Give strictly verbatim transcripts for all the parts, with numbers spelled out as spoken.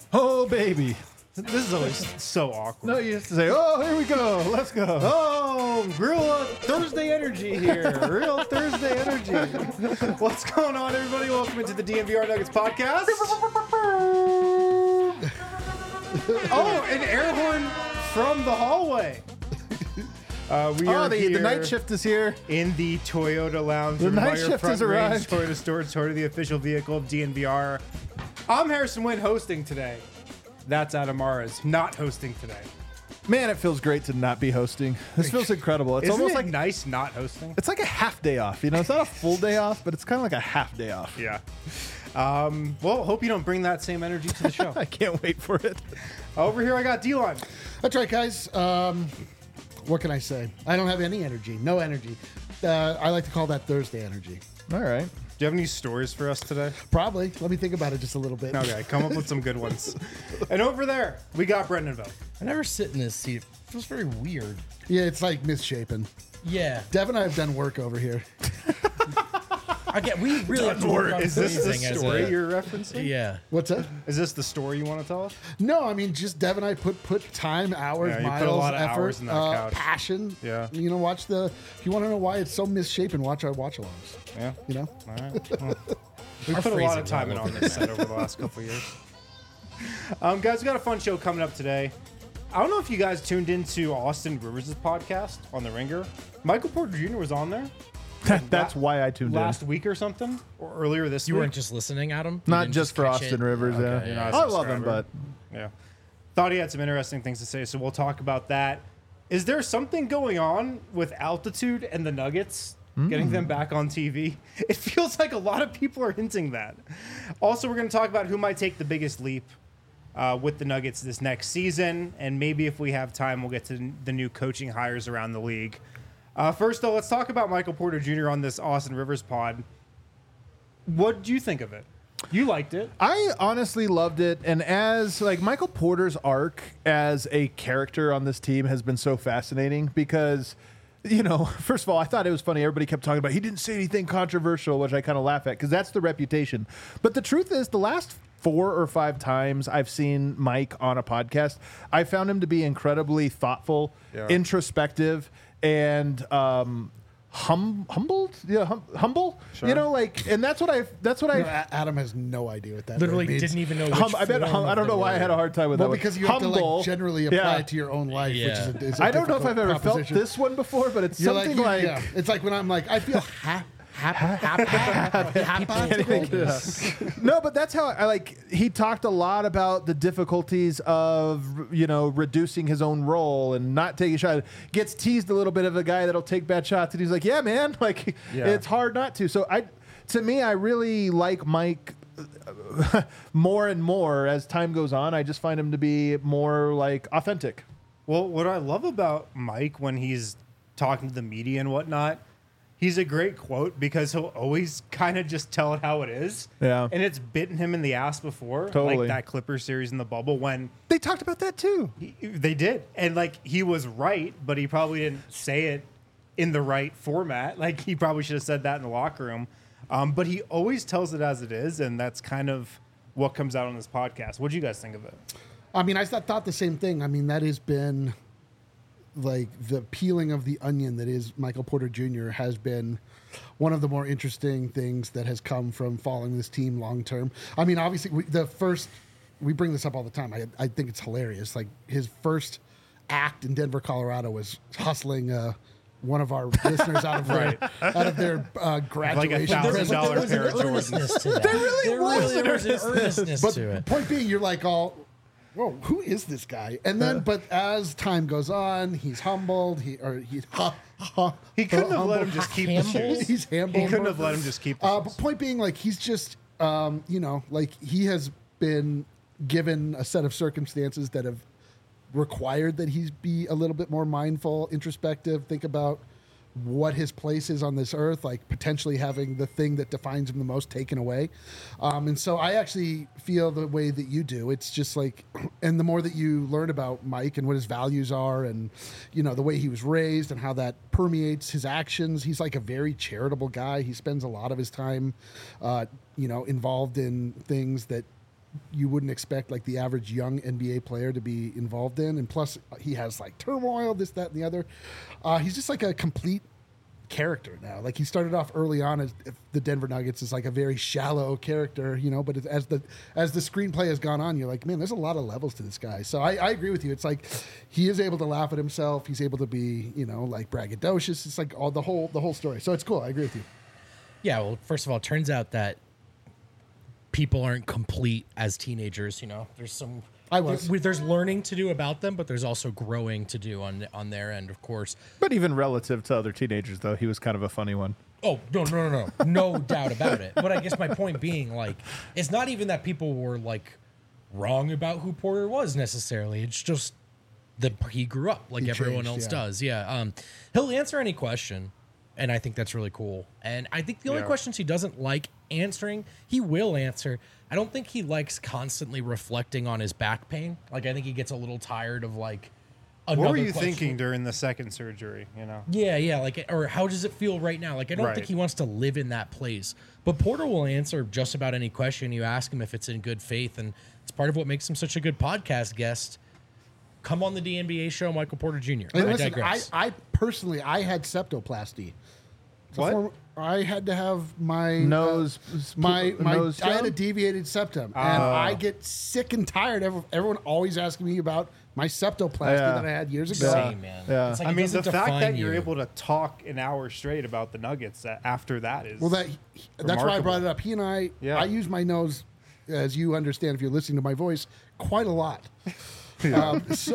Oh, baby. This is always so awkward. No, you have to say, oh, here we go. Let's go. Oh, real uh, Thursday energy here. Real Thursday energy. What's going on, everybody? Welcome into the D N V R Nuggets podcast. Oh, an air horn from the hallway. Uh, we Oh, are the, here the night shift is here. in the Toyota Lounge. The night by your shift Front has Range arrived. Toyota store, Toyota, the official vehicle of D N V R. I'm Harrison Wynn hosting today. That's Adam Maras not hosting today. Man, it feels great to not be hosting. This feels incredible. It's Isn't almost it like nice not hosting? it's like a half day off. You know, it's not a full day off, but it's kind of like a half day off. Yeah. Um, well, hope you don't bring that same energy to the show. I can't wait for it. Over here, I got D-Line. That's right, guys. Um, what can I say? I don't have any energy. No energy. Uh, I like to call that Thursday energy. All right. Do you have any stories for us today? Probably. Let me think about it just a little bit. Okay, come up with some good ones. And over there, we got Brendanville. I never sit in this seat. It feels very weird. Yeah, it's like misshapen. Yeah. Dev and I have done work over here. I get. We really have to work on Is this the phrasing as story a- you're referencing? Yeah. What's that? Is this the story you want to tell us? No, I mean, just Dev and I put put time, hours, Yeah, you put a miles, lot of effort, hours in that uh, couch. passion. Yeah. You know, watch the. If you want to know why it's so misshapen, watch our watch-alongs. Yeah. You know. All right. Well, we Our put a lot of phrasing's time all in over on the this set over the last couple of years. Um, guys, we got a fun show coming up today. I don't know if you guys tuned into Austin Rivers' podcast on The Ringer. Michael Porter Junior was on there That's why I tuned last in. week or something, or earlier this You week. weren't just listening, Adam? You Not didn't just for catch Austin it? Rivers. Okay, yeah. yeah. Not as I a love him, subscriber. but Yeah. Thought he had some interesting things to say, so we'll talk about that. Is there something going on with Altitude and the Nuggets getting them back on T V? It feels like a lot of people are hinting that. Also, we're going to talk about who might take the biggest leap uh, with the Nuggets this next season, and maybe if we have time, we'll get to the new coaching hires around the league. Uh, first, though, let's talk about Michael Porter Junior on this Austin Rivers pod. What did you think of it? You liked it. I honestly loved it. And as like Michael Porter's arc as a character on this team has been so fascinating because, you know, first of all, I thought it was funny. Everybody kept talking about he didn't say anything controversial, which I kind of laugh at because that's the reputation. But the truth is, the last four or five times I've seen Mike on a podcast, I found him to be incredibly thoughtful, Yeah. introspective, and um, hum humbled. Yeah, hum humble. Sure. You know, like, and that's what I. That's what I. No, A- Adam has no idea what that Literally word means. didn't even know which Hum, I bet. form Hum, I of don't the know why I word. had a hard time with Well, that. because you one. have to Humble. like generally apply Yeah. it to your own life, Yeah. which is a, is a I don't know if difficult I've ever felt proposition. this one before, but it's You're something you- like. yeah. It's like when I'm like, I feel ha- hap- hap- hap- hap- No, but that's how I like. He talked a lot about the difficulties of you know reducing his own role and not taking a shot. Gets teased a little bit of a guy that'll take bad shots, and he's like, "Yeah, man, like Yeah. it's hard not to." So I, to me, I really like Mike more and more as time goes on. I just find him to be more like authentic. Well, what I love about Mike when he's talking to the media and whatnot, he's a great quote because he'll always kind of just tell it how it is. Yeah. And it's bitten him in the ass before. Totally. Like that Clippers series in the bubble when They talked about that too. he, they did. And like he was right, but he probably didn't say it in the right format. Like he probably should have said that in the locker room. Um, but he always tells it as it is. And that's kind of what comes out on this podcast. What do you guys think of it? I mean, I th- thought the same thing. I mean, that has been like the peeling of the onion that is Michael Porter Junior has been one of the more interesting things that has come from following this team long term. I mean, obviously, we, the first we bring this up all the time. I I think it's hilarious. Like his first act in Denver, Colorado, was hustling uh, one of our listeners out of their out of their uh, graduation. thousand present. dollar There was an pair of Jordans. earnestness to that. There really there was really an was an earnestness But to it. point being, you're like all, whoa, who is this guy? And then, but as time goes on, he's humbled. He or he's ha, ha, He couldn't have humbled. let him just keep the Humble? shoes. He's humbled. He couldn't have let him just keep the Uh, shoes. but point being, like he's just, um, you know, like he has been given a set of circumstances that have required that he be a little bit more mindful, introspective, think about what his place is on this earth, like potentially having the thing that defines him the most taken away. Um, and so I actually feel the way that you do. It's just like, and the more that you learn about Mike and what his values are and, you know, the way he was raised and how that permeates his actions, he's like a very charitable guy. He spends a lot of his time, uh, you know, involved in things that you wouldn't expect like the average young N B A player to be involved in. And plus, he has like turmoil, this, that, and the other. Uh, he's just like a complete character now. Like he started off early on as the Denver Nuggets is like a very shallow character, you know. But it, as the as the screenplay has gone on, you're like, man, there's a lot of levels to this guy. So I, I agree with you. It's like he is able to laugh at himself. He's able to be, you know, like braggadocious. It's like all the whole the whole story. So it's cool. I agree with you. Yeah, well, first of all, it turns out that people aren't complete as teenagers. You know, there's some. I was. there- there's learning to do about them, but there's also growing to do on on their end, of course. But even relative to other teenagers, though, he was kind of a funny one. Oh no no no no no doubt about it. But I guess my point being, like, it's not even that people were like wrong about who Porter was necessarily. It's just that he grew up like He everyone changed, else yeah. does. Yeah. Um, he'll answer any question, and I think that's really cool. And I think the only Yeah. questions he doesn't like answering, he will answer. I don't think he likes constantly reflecting on his back pain. Like, I think he gets a little tired of like. What were another you question. thinking during the second surgery? You know. Yeah, yeah, like, or how does it feel right now? Like, I don't Right. think he wants to live in that place. But Porter will answer just about any question you ask him if it's in good faith, and it's part of what makes him such a good podcast guest. Come on the D N B A show, Michael Porter Junior And I listen, I, digress. I personally, I had septoplasty. So What? form- I had to have my Nose, uh, my my. nose I had a job? deviated septum, and I get sick and tired. Every- Everyone always asking me about my septoplasty Yeah. that I had years ago. Same, man. Yeah. It's like I it mean, the doesn't fact that define you're you. able to talk an hour straight about the Nuggets a- after that is Well, that that's why I brought it up. He and I, Yeah. I use my nose, as you understand if you're listening to my voice, quite a lot. Um, so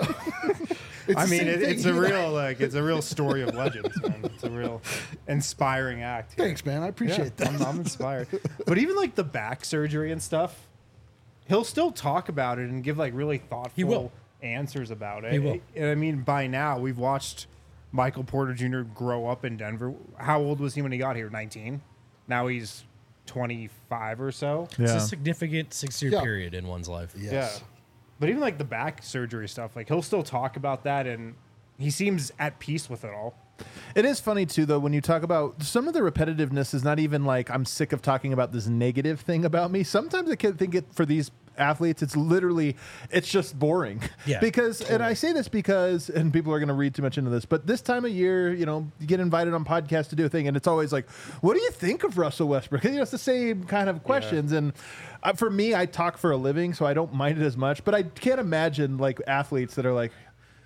it's I the mean, same it, thing. it's a He and I- real like it's a real story of legends, man. It's a real inspiring act. here. Thanks, man. I appreciate Yeah, that. I'm, I'm inspired. But even like the back surgery and stuff, he'll still talk about it and give like really thoughtful will. answers about it. He will. And I mean, by now we've watched Michael Porter Junior grow up in Denver. How old was he when he got here? nineteen. Now he's twenty-five or so. It's Yeah. a significant six-year Yeah. period in one's life. Yes. Yeah. But even like the back surgery stuff, like he'll still talk about that, and he seems at peace with it all. It is funny too, though, when you talk about some of the repetitiveness is not even like I'm sick of talking about this negative thing about me. Sometimes I can think it for these athletes, it's literally, it's just boring. Yeah, Because, and I say this because, and people are going to read too much into this, but this time of year, you know, you get invited on podcasts to do a thing, and it's always like, what do you think of Russell Westbrook? You know, it's the same kind of questions. And uh, for me, I talk for a living, so I don't mind it as much. But I can't imagine like athletes that are like,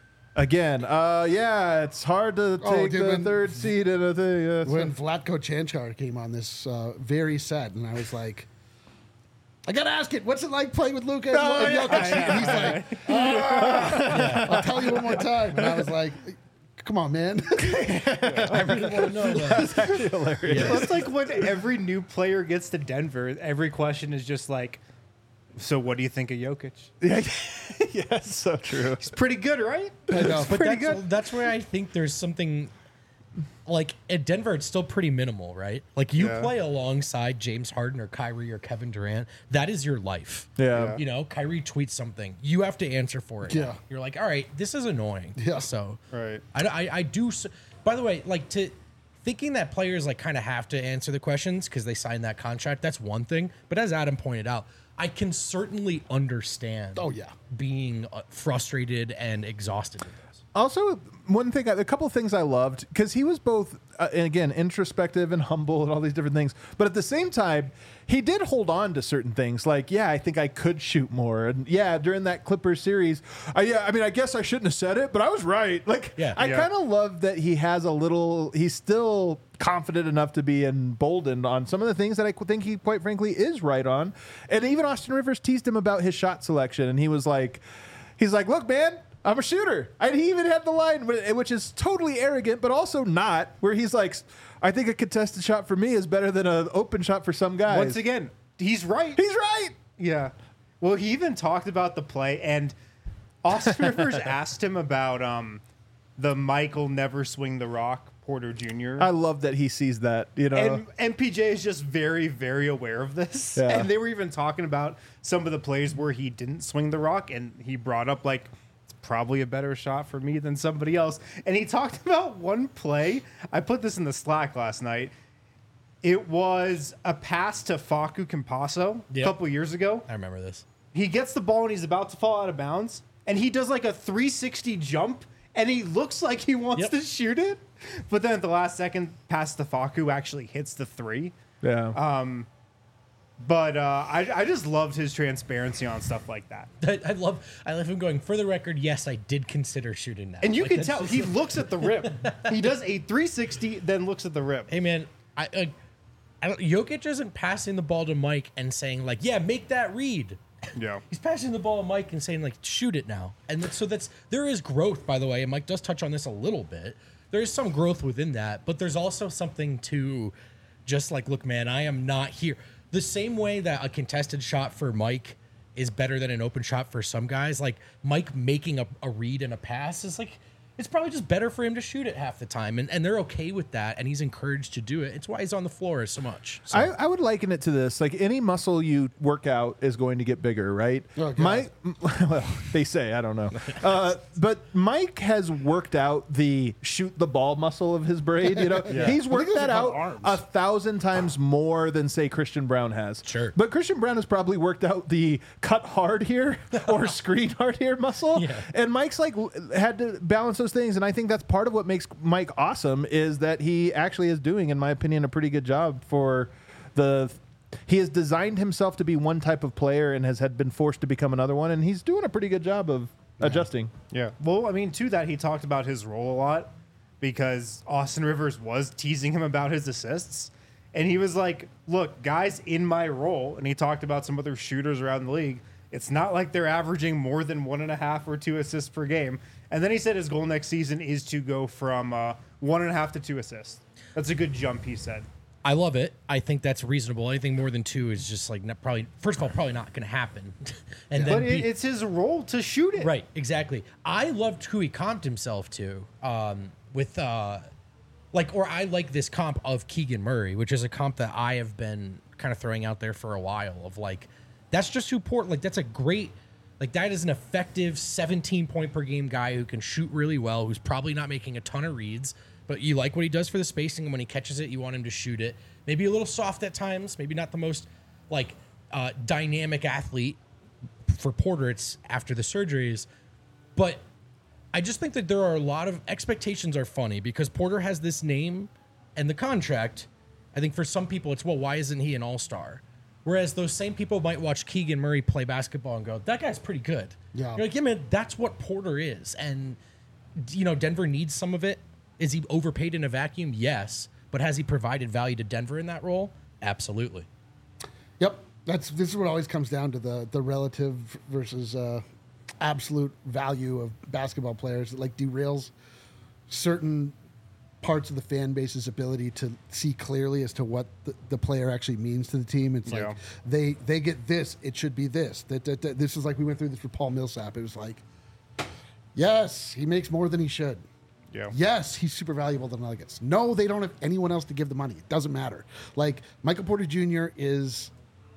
again, uh, yeah, it's hard to Oh, take dude, the when- third seed in a thing. Yeah, it's When Vlatko Chanchar came on this, uh, very sad, and I was like, I gotta ask it. What's it like playing with Luka? Oh, and Jokic? And he's like, "Ah." I'll tell you one more time. And I was like, come on, man. I really want to know that. hilarious. Well, it's like when every new player gets to Denver, every question is just like, so what do you think of Jokic? Yeah, yeah, it's so true. He's pretty good, right? I know. But Pretty that's, good. that's where I think there's something like at Denver, it's still pretty minimal, right? Like you Yeah. play alongside James Harden or Kyrie or Kevin Durant. That is your life. Yeah. You know, Kyrie tweets something. You have to answer for it. Yeah. You're like, all right, this is annoying. Yeah. So Right. I, I, I do. s- By the way, like to thinking that players like kind of have to answer the questions because they signed that contract. That's one thing. But as Adam pointed out, I can certainly understand. Oh, yeah. Being uh, frustrated and exhausted with this. Also, one thing, a couple of things I loved, because he was both, uh, and again, introspective and humble and all these different things. But at the same time, he did hold on to certain things. Like, yeah, I think I could shoot more. And yeah, during that Clippers series, I, yeah, I mean, I guess I shouldn't have said it, but I was right. Like, Yeah. I Yeah. kind of love that he has a little, he's still confident enough to be emboldened on some of the things that I think he, quite frankly, is right on. And even Austin Rivers teased him about his shot selection. And he was like, he's like, look, man, I'm a shooter. And he even had the line, which is totally arrogant, but also not, where he's like, I think a contested shot for me is better than an open shot for some guys. Once again, he's right. He's right. Yeah. Well, he even talked about the play, and Austin Rivers asked him about um, the Michael never swing the rock Porter Junior I love that he sees that, you know. And M P J is just very, very aware of this. Yeah. And they were even talking about some of the plays where he didn't swing the rock, and he brought up like, it's probably a better shot for me than somebody else. And he talked about one play. I put this in the Slack last night. It was a pass to Facu Campasso Yep. a couple years ago. I remember this. he gets the ball and he's about to fall out of bounds, and he does like a three sixty jump, and he looks like he wants Yep. to shoot it, but then at the last second, past the Faku actually hits the three. Yeah. But uh, I, I just loved his transparency on stuff like that. I, I love I love him going, for the record, yes, I did consider shooting that. And you Like, can that's tell just he like- looks at the rim. He does a three sixty, then looks at the rim. Hey man, I, I, I don't, Jokic isn't passing the ball to Mike and saying like, yeah, make that read. Yeah. He's passing the ball to Mike and saying like, shoot it now. And that, so that's there is growth, by the way. And Mike does touch on this a little bit. There is some growth within that, but there's also something to just like, look, man, I am not here. The same way that a contested shot for Mike is better than an open shot for some guys. Like Mike making a, a read and a pass is like, it's probably just better for him to shoot it half the time. And, and they're okay with that. And he's encouraged to do it. It's why he's on the floor so much. So, I, I would liken it to this: like any muscle you work out is going to get bigger, right? Oh, God. Mike, well, they say, I don't know, uh, but Mike has worked out the shoot the ball muscle of his braid. You know, Yeah. he's worked those that are called out arms. a thousand times more than say Christian Brown has. Sure. but Christian Brown has probably worked out the cut hard here or screen hard here muscle, Yeah. and Mike's like w- had to balance those things, and I think that's part of what makes Mike awesome is that he actually is doing, in my opinion, a pretty good job for the. He has designed himself to be one type of player and has had been forced to become another one, and he's doing a pretty good job of adjusting. Yeah. Well, I mean, to that, he talked about his role a lot because Austin Rivers was teasing him about his assists. And he was like, look, guys in my role, and he talked about some other shooters around the league, it's not like they're averaging more than one and a half or two assists per game. And then he said his goal next season is to go from uh, one and a half to two assists. That's a good jump, he said. I love it. I think that's reasonable. Anything more than two is just like not, probably, first of all, probably not going to happen. and then But B- it, it's his role to shoot it. right, exactly. I loved who he comped himself to um, with, uh, like, or I like this comp of Keegan Murray, which is a comp that I have been kind of throwing out there for a while. Of like, that's just who Port. Like, that's a great. Like, that is an effective seventeen point per game guy who can shoot really well, who's probably not making a ton of reads, but you like what he does for the spacing, and when he catches it, you want him to shoot it. Maybe a little soft at times, maybe not the most, like, uh, dynamic athlete. For Porter, it's after the surgeries. But I just think that there are a lot of expectations are funny because Porter has this name and the contract. I think for some people, it's, well, why isn't he an all-star? Whereas those same people might watch Keegan Murray play basketball and go, that guy's pretty good. Yeah. You're like, yeah, man, that's what Porter is. And, you know, Denver needs some of it. Is he overpaid in a vacuum? Yes. But has he provided value to Denver in that role? Absolutely. Yep, that's this is what always comes down to the the relative versus uh, absolute value of basketball players. It like derails certain parts of the fan base's ability to see clearly as to what the, the player actually means to the team. It's Yeah. like they they get this, it should be this. That, that, that this is like we went through this with Paul Millsap. It was like, yes, he makes more than he should. Yeah. Yes, he's super valuable to the Nuggets. No, they don't have anyone else to give the money. It doesn't matter. Like, Michael Porter Junior is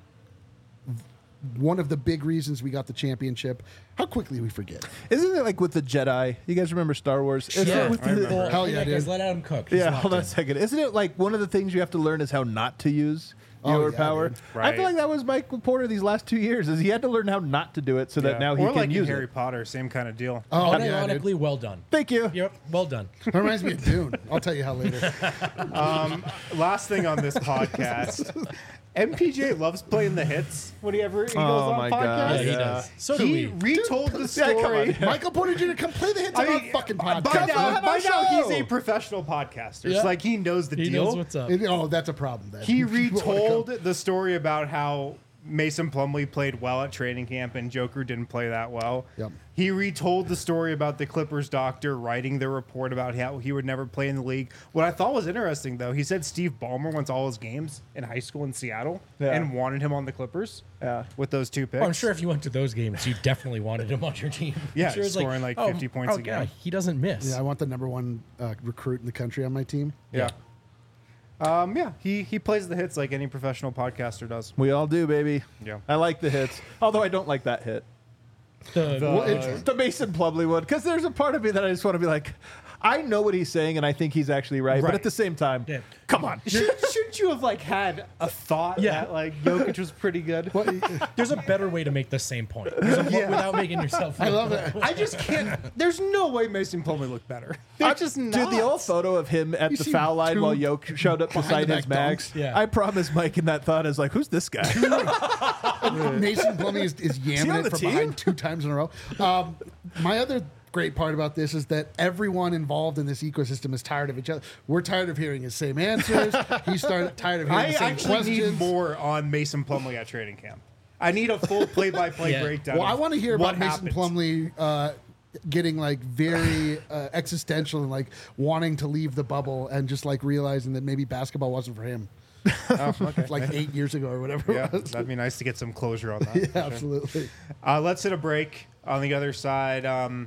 one of the big reasons we got the championship. How quickly we forget. Isn't it like with the Jedi? You guys remember Star Wars? Isn't Yeah, it with I the- remember. Hell yeah, guys, dude. let Adam cook. He's Yeah, locked hold on in. a second. Isn't it like one of the things you have to learn is how not to use Oh, your yeah, power? dude. I Right. feel like that was Michael Porter these last two years. Is he had to learn how not to do it so that Yeah. now he or can like in use Harry it. Potter, same kind of deal. Oh, yeah, dude. Unironically, well done. Thank you. Yep, well done. That reminds me of Dune. I'll tell you how later. Last thing on this podcast, M P J loves playing the hits whenever he goes Oh on my podcasts. God. Yeah, he Yeah. does. So do He we. retold the Yeah, story. come on. Michael Porter Junior, come play the hits I on mean, our fucking by podcast. now, on our by now show. he's a professional podcaster. Yeah. It's like he knows the He deal. knows what's up. It- oh, that's a problem then. He You wanna retold come- the story about how Mason Plumlee played well at training camp and Joker didn't play that well. Yep. He retold the story about the Clippers doctor writing the report about how he would never play in the league. What I thought was interesting, though, he said Steve Ballmer went to all his games in high school in Seattle Yeah. and wanted him on the Clippers Yeah. with those two picks. Oh, I'm sure if you went to those games, you definitely wanted him on your team. Yeah, I'm sure it's scoring like fifty points a game. yeah, he doesn't miss. Yeah, I want the number one uh, recruit in the country on my team. Yeah. Um, yeah, he, he plays the hits like any professional podcaster does. We all do, baby. Yeah. I like the hits, although I don't like that hit. The- The- Well, it's the Mason Plumlee one, because there's a part of me that I just want to be like, I know what he's saying, and I think he's actually right. But Right. at the same time, Yeah. come on. Should, shouldn't you have like had a thought Yeah. that like Jokic was pretty good? There's a better way to make the same point There's a, Yeah. without making yourself. I look love bad. it. I just can't. There's no way Mason Plumlee looked better. They're I- just Dude, not. the old photo of him at You the see foul line two while Yoke showed up beside his behind-the-back max. dunks. Yeah. I promise Mike in that thought is like, who's this guy? Mason Plumlee is, is he on yamming the it from team? behind two times in a row. Um, my other great part about this is that everyone involved in this ecosystem is tired of each other. We're tired of hearing his same answers. He's started, tired of hearing I the same actually questions. need more on Mason Plumlee at training camp. I need a full play-by-play Yeah. breakdown. Well, I of want to hear what about Mason happened. Plumlee uh, getting like very uh, existential and like wanting to leave the bubble and just like realizing that maybe basketball wasn't for him. Oh, okay. Like eight years ago or whatever. Yeah, it was. that'd be nice to get some closure on that. Yeah, for sure. absolutely. Uh, let's hit a break. On the other side, um,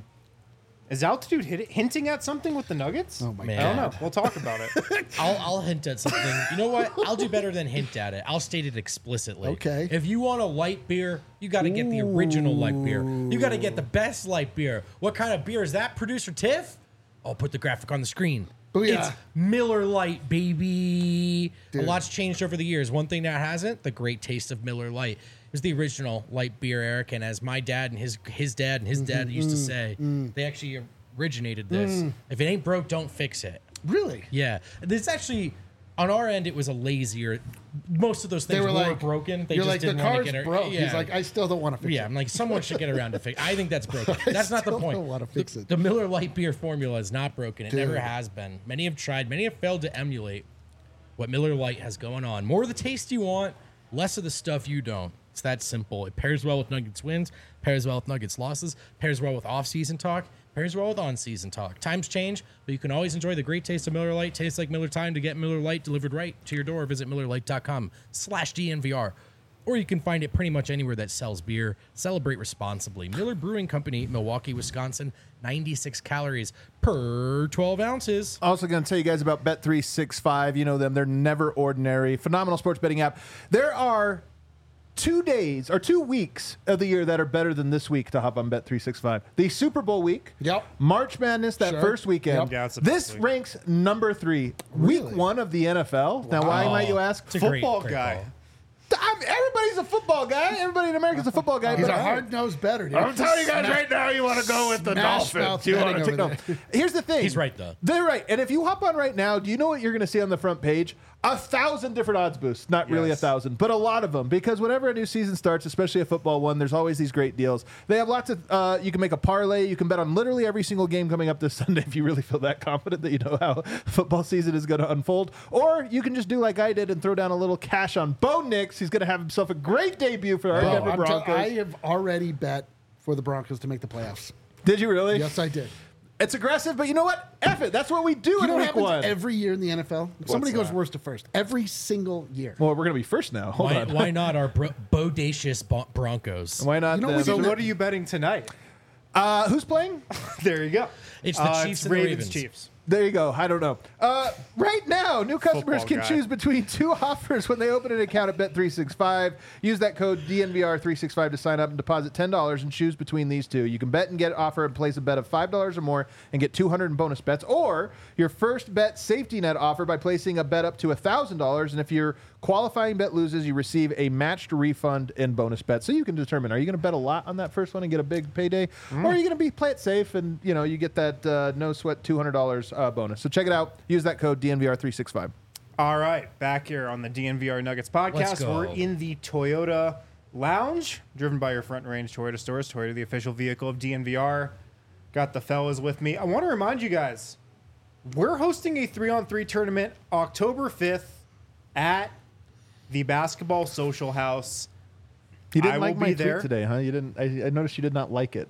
is Altitude hit, hinting at something with the Nuggets? Oh my Man. I don't know. God. We'll talk about it. I'll, I'll hint at something. You know what? I'll do better than hint at it. I'll state it explicitly. Okay. If you want a light beer, you got to get the original light beer. You got to get the best light beer. What kind of beer is that, producer Tiff? I'll put the graphic on the screen. Booyah. It's Miller Lite, baby. Dude. A lot's changed over the years. One thing that hasn't, the great taste of Miller Lite. It was the original light beer, Eric. And as my dad and his his dad and his dad used to say, they actually originated this. If it ain't broke, don't fix it. Really? Yeah, it's actually on our end. It was a lazier. Most of those things They were were, like broken. They you're just like the didn't want car's to get it. broke. Yeah. He's like, I still don't want to fix yeah, it. I'm like, someone should get around to fix. I think that's broken. That's not the still point. don't wanna fix the, it. the Miller Lite beer formula is not broken. It Dude. never has been. Many have tried. Many have failed to emulate what Miller Lite has going on. More of the taste you want, less of the stuff you don't. It's that simple. It pairs well with Nuggets wins, pairs well with Nuggets losses, pairs well with off-season talk, pairs well with on-season talk. Times change, but you can always enjoy the great taste of Miller Lite. Tastes like Miller time. To get Miller Lite delivered right to your door, visit Miller Lite dot com slash D N V R. Or you can find it pretty much anywhere that sells beer. Celebrate responsibly. Miller Brewing Company, Milwaukee, Wisconsin. ninety-six calories per twelve ounces. Also going to tell you guys about Bet three sixty-five. You know them. They're never ordinary. Phenomenal sports betting app. There are two days or two weeks of the year that are better than this week to hop on Bet three sixty-five. The Super Bowl week. Yep. March Madness, that Sure. first weekend. Yep. Yeah, it's the this best week. ranks number three. Really? Week one of the N F L. Now, why Wow. might you ask? It's a great- Football great guy. call. I'm, everybody's a football guy. Everybody in America is a football guy. He's but a I- hard-nosed better. Dude. I'm telling you guys right now, you want to go with the Smash Dolphins. mouth You want to betting take over no. Here's the thing. He's right, though. They're right. And if you hop on right now, do you know what you're going to see on the front page? A thousand different odds boosts. Not really a Yes. thousand, but a lot of them. Because whenever a new season starts, especially a football one, there's always these great deals. They have lots of. Uh, you can make a parlay. You can bet on literally every single game coming up this Sunday if you really feel that confident that you know how football season is going to unfold. Or you can just do like I did and throw down a little cash on Bo Nix. He's going to have himself a great debut for our Bro, Denver I'm tell- Broncos. I have already bet for the Broncos to make the playoffs. Did you really? Yes, I did. It's aggressive, but you know what? F it. That's what we do You in know what week happens one. every year in the N F L? Somebody goes that? worst to first. Every single year. well, we're going to be first now. Hold Why, on. why not our bro- bodacious bo- Broncos? Why not? You know them? we So did- what are you betting tonight? uh, who's playing? There you go. It's the Uh, Chiefs it's and the Ravens, Ravens. Chiefs. There you go. I don't know. Uh, right now, new customers Football can guy. choose between two offers when they open an account at Bet three sixty-five. Use that code D N V R three sixty-five to sign up and deposit ten dollars and choose between these two. You can bet and get offer and place a bet of five dollars or more and get two hundred in bonus bets, or your first bet safety net offer by placing a bet up to one thousand dollars. And if your qualifying bet loses, you receive a matched refund in bonus bets. So you can determine, are you going to bet a lot on that first one and get a big payday? Or are you going to be play it safe and, you know, you get that uh, no sweat two hundred dollars uh, bonus. So check it out. Use that code D N V R three sixty-five. All right, back here on the D N V R Nuggets Let's podcast. go. We're in the Toyota Lounge, driven by your front range Toyota stores. Toyota, the official vehicle of D N V R. Got the fellas with me. I want to remind you guys, we're hosting a three-on-three tournament October fifth at the Basketball Social House. You didn't I like will my be tweet there. today, huh? You didn't. I, I noticed you did not like it.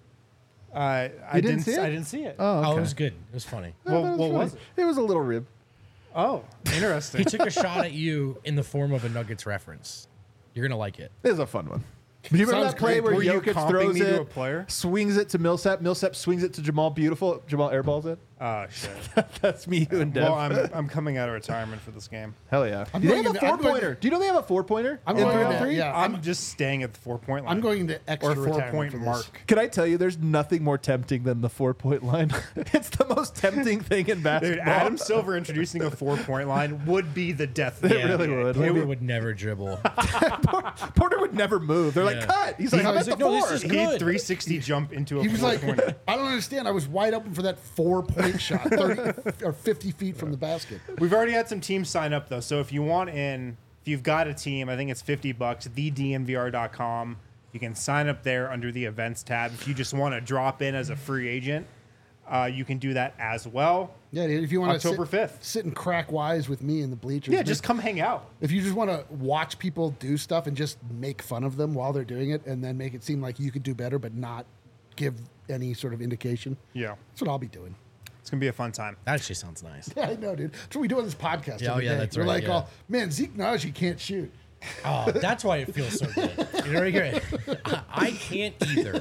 Uh, I You didn't see it? I didn't see it. Oh, okay. Oh, it was good. It was funny. I Well, thought what funny. was it? It was a little rib. Oh, interesting. He took a shot at you in the form of a Nuggets reference. You're gonna like it. It was a fun one. Do you remember Sounds that play great. where Were you Jokic comping throws me it, to a player? swings it to Millsap, Millsap swings it to Jamal Beautiful, Jamal airballs it? Oh shit. That's me, you, and Dev. Well, I'm I'm coming out of retirement for this game. Hell yeah. I'm Do they going have a into- I'm four going pointer? to- Do you know they have a four pointer? I'm in going three on to- three? yeah. I'm just staying at the four point line. I'm going to extra or four retirement point for this. mark. Can I tell you, there's nothing more tempting than the four point line. It's the most tempting thing in basketball. Dude, Adam Silver introducing a four point line would be the death. It really would. Kobe would never dribble. Porter would never move. They're like, Yeah. cut. He's like, He's I'm at like, the no, this four. is He'd good. three sixty jump into a He was four like, pointer. I don't understand. I was wide open for that four point shot, thirty or fifty feet from the basket. We've already had some teams sign up though, so if you want in, if you've got a team, I think it's fifty bucks. the d m v r dot com. You can sign up there under the events tab. If you just want to drop in as a free agent, uh, you can do that as well. Yeah, dude, if you want October to fifth. sit and crack wise with me in the bleachers. Yeah, make- just come hang out. if you just want to watch people do stuff and just make fun of them while they're doing it, and then make it seem like you could do better, but not give any sort of indication. Yeah, That's what I'll be doing. it's gonna be a fun time. That actually sounds nice. Yeah, I know, dude. That's what we do on this podcast. Yeah, oh, every yeah, day. that's We're right, like, yeah. oh, man, Zeke Naji can't shoot. Oh, that's why it feels so good. You know what I mean? I, I can't either.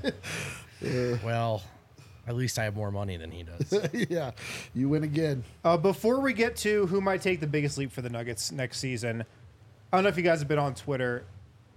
Well, at least I have more money than he does. Yeah, you win again. Uh, before we get to who might take the biggest leap for the Nuggets next season, I don't know if you guys have been on Twitter.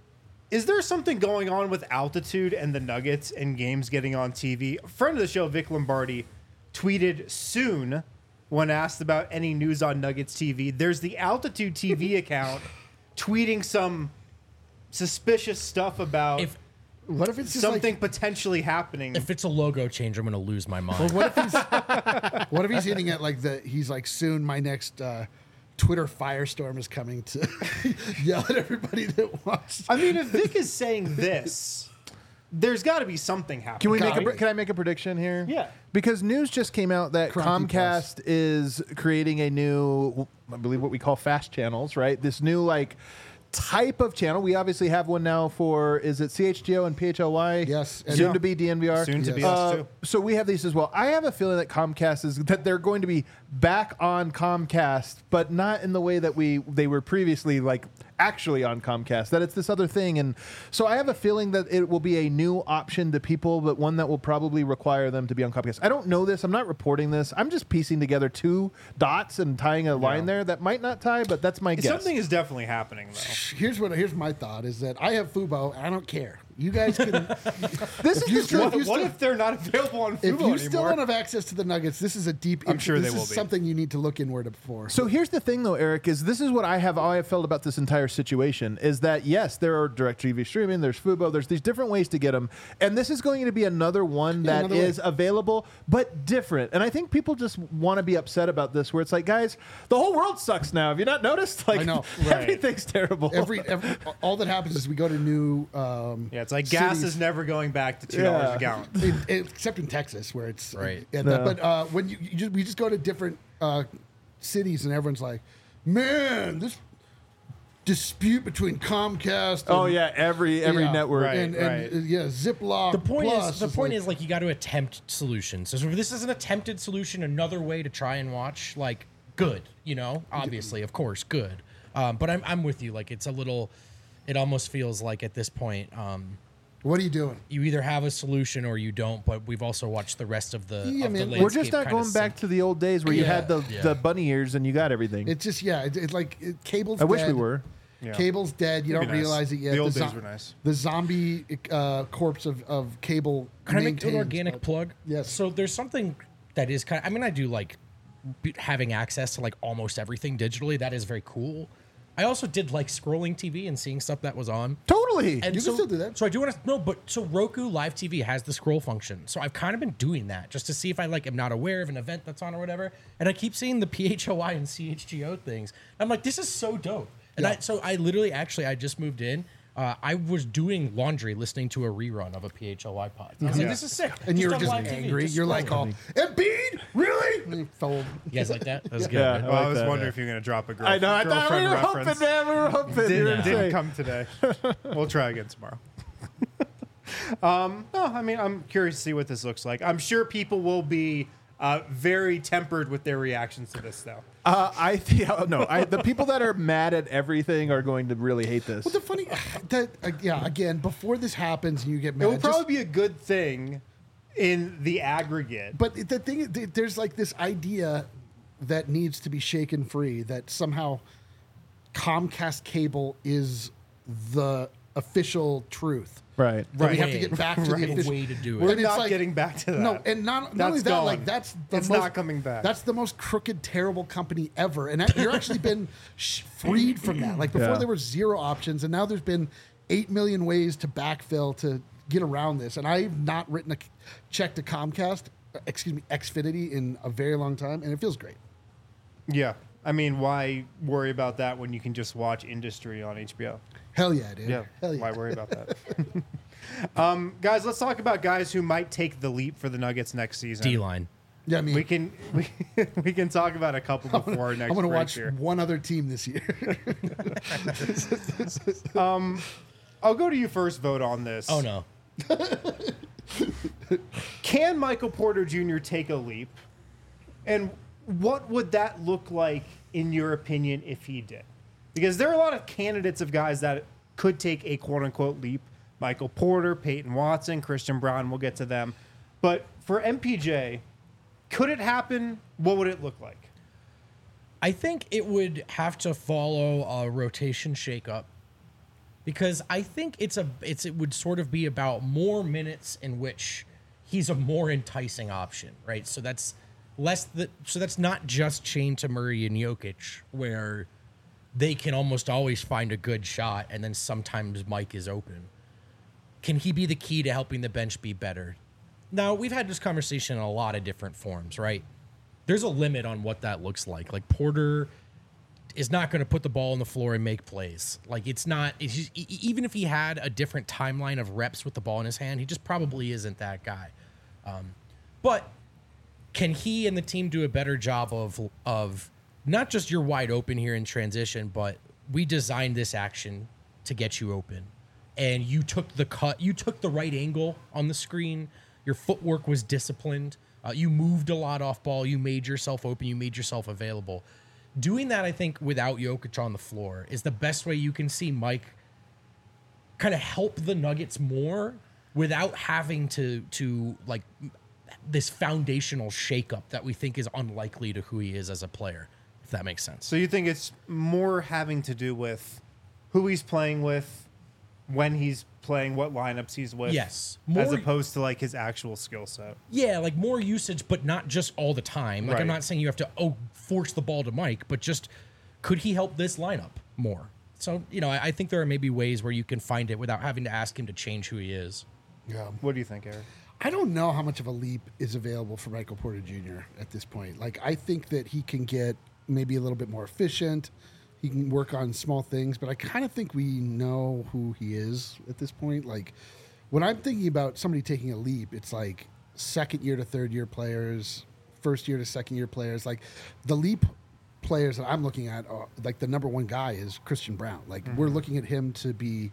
Is there something going on with altitude and the Nuggets and games getting on T V? A friend of the show, Vic Lombardi, tweeted soon when asked about any news on Nuggets T V. There's the Altitude T V account tweeting some suspicious stuff about If What if it's just something like, potentially happening. if it's a logo change, I'm going to lose my mind. what if he's what if he's hitting at like the he's like soon my next uh, Twitter firestorm is coming to yell at everybody that wants. I mean, if Vic is saying this, there's got to be something happening. Can we make a, Got pre- it. can I make a prediction here? Yeah. Because news just came out that Crumpy Comcast is creating a new, I believe what we call fast channels, right? This new like type of channel. We obviously have one now for, is it C H G O and P H L Y? Yes. And Soon yeah. to be D N V R. Soon to be Yes. us Uh, too. so we have these as well. I have a feeling that Comcast is that they're going to be back on Comcast, but not in the way that we they were previously like actually on Comcast. That it's this other thing, and so I have a feeling that it will be a new option to people, but one that will probably require them to be on Comcast. I don't know this. I'm not reporting this. I'm just piecing together two dots and tying a line there that might not tie, but that's my guess. Something is definitely happening, though. Here's what here's my thought is that I have Fubo. And I don't care. You guys can. This if is you the still- truth. What, you what still- if they're not available on If Fubo you anymore? still don't have access to the Nuggets, this is a deep. I'm sure this they will is be. something you need to look inward for. So here's the thing, though, Eric, is this is what I have, how I have felt about this entire situation is that, yes, there are DirecTV streaming, there's Fubo, there's these different ways to get them. And this is going to be another one Yeah, that another way. is available, but different. And I think people just want to be upset about this, where it's like, guys, the whole world sucks now. Have you not noticed? Like, I know. Right. everything's terrible. every, every all that happens is we go to new. Um, Yeah, it's like gas cities. is never going back to two dollars Yeah. a gallon. in, in- except in Texas, where it's Right. yeah, No. that- but uh, when you, you just we just go to different uh, cities, and everyone's like, "Man, this dispute between Comcast." And, oh, yeah, every every yeah, network. Right. and, and uh, yeah, Ziploc. The point Plus is, the point like, is, like, you got to attempt solutions. So if this is an attempted solution, another way to try and watch, like, good, you know, obviously, of course, good. Um, but I'm, I'm with you. Like, it's a little, it almost feels like at this point, um, what are you doing? you either have a solution or you don't. But we've also watched the rest of the. Yeah, of the man, We're just landscape not kinda going back sink. to the old days where you Yeah. had the, Yeah. the bunny ears and you got everything. It's just yeah, it's, it's like it, cable's. I wish dead. we were. Yeah. Cable's dead. You It'd don't be nice. realize it yet. The old zo- days were nice. The zombie uh, corpse of, of cable. Can I make an maintains, organic but- plug? Yes. So there's something that is kind of, I mean, I do like b- having access to like almost everything digitally. That is very cool. I also did like scrolling T V and seeing stuff that was on. Totally. And You can so, still do that. So I do want to no, but so Roku Live T V has the scroll function. So I've kind of been doing that just to see if I like am not aware of an event that's on or whatever. And I keep seeing the P H O I and C H G O things. I'm like, this is so dope. And Yeah. I so I literally actually I just moved in. Uh, I was doing laundry listening to a rerun of a P H O I pod. I was like, Yeah. this is sick. And you were on just live T V, angry. just You're like, scroll. "Oh, Embiid, really?" And you fell. You guys like that? That was good. Yeah. right? Well, I like was that. wondering if you were going to drop a girl, I know. I thought we girlfriend were reference. hoping, man. We were hoping. You were Didn't, gonna didn't say. come today. We'll try again tomorrow. um, no, I mean, I'm curious to see what this looks like. I'm sure people will be uh, very tempered with their reactions to this, though. Uh, I think no. I, the people that are mad at everything are going to really hate this. Well, the funny, that uh, yeah. Again, before this happens, and you get mad. It will just- probably be a good thing in the aggregate. But the thing is, there's like this idea that needs to be shaken free that somehow Comcast cable is the official truth. Right. That we Right. have to get back to Right. the official way to do it. We're And it's not like- getting back to that. No, and not, not That's only that, gone. like that's the It's most, not coming back. That's the most crooked, terrible company ever, and that, you're actually been sh- freed from that. Like before, Yeah. there were zero options, and now there's been eight million ways to backfill to get around this. And I've not written a check to Comcast, uh, excuse me, Xfinity in a very long time, and it feels great. Yeah. I mean, why worry about that when you can just watch Industry on H B O? Hell yeah, dude. Yeah. Hell yeah. Why worry about that? um, guys, let's talk about guys who might take the leap for the Nuggets next season. D line. Yeah, I mean, We can we, we can talk about a couple before our next I'm going to break watch here. one other team this year. I'll go to you first. Vote on this. Oh no. Can Michael Porter Junior take a leap? And what would that look like, in your opinion, if he did? Because there are a lot of candidates of guys that could take a quote-unquote leap. Michael Porter, Peyton Watson, Christian Brown, we'll get to them. But for M P J, could it happen? What would it look like? I think it would have to follow a rotation shakeup because I think it's a it's it would sort of be about more minutes in which he's a more enticing option, right? So that's less that so that's not just chained to Murray and Jokic where they can almost always find a good shot and then sometimes Mike is open. Can he be the key to helping the bench be better? Now, we've had this conversation in a lot of different forms, right? There's a limit on what that looks like. Like Porter is not going to put the ball on the floor and make plays. Like it's not, it's just, e- even if he had a different timeline of reps with the ball in his hand, he just probably isn't that guy. Um, but can he and the team do a better job of, of not just you're wide open here in transition, but we designed this action to get you open. And you took the cut, you took the right angle on the screen. Your footwork was disciplined. Uh, you moved a lot off ball. You made yourself open. You made yourself available. Doing that, I think, without Jokic on the floor is the best way you can see Mike kind of help the Nuggets more without having to to like this foundational shakeup that we think is unlikely to who he is as a player, if that makes sense. So you think it's more having to do with who he's playing with, when he's playing, what lineups he's with. Yes. As More- opposed to like his actual skill set. Yeah, like more usage, but not just all the time. Like Right. I'm not saying you have to oh force the ball to Mike, but just could he help this lineup more? So you know, I, I think there are maybe ways where you can find it without having to ask him to change who he is. Yeah. What do you think, Eric? I don't know how much of a leap is available for Michael Porter Junior at this point. Like, I think that he can get maybe a little bit more efficient. He can work on small things, but I kind of think we know who he is at this point. Like, when I'm thinking about somebody taking a leap, it's like second year to third year players, first year to second year players. Like, the leap players that I'm looking at, are, like, the number one guy is Christian Brown. Like, Mm-hmm. we're looking at him to be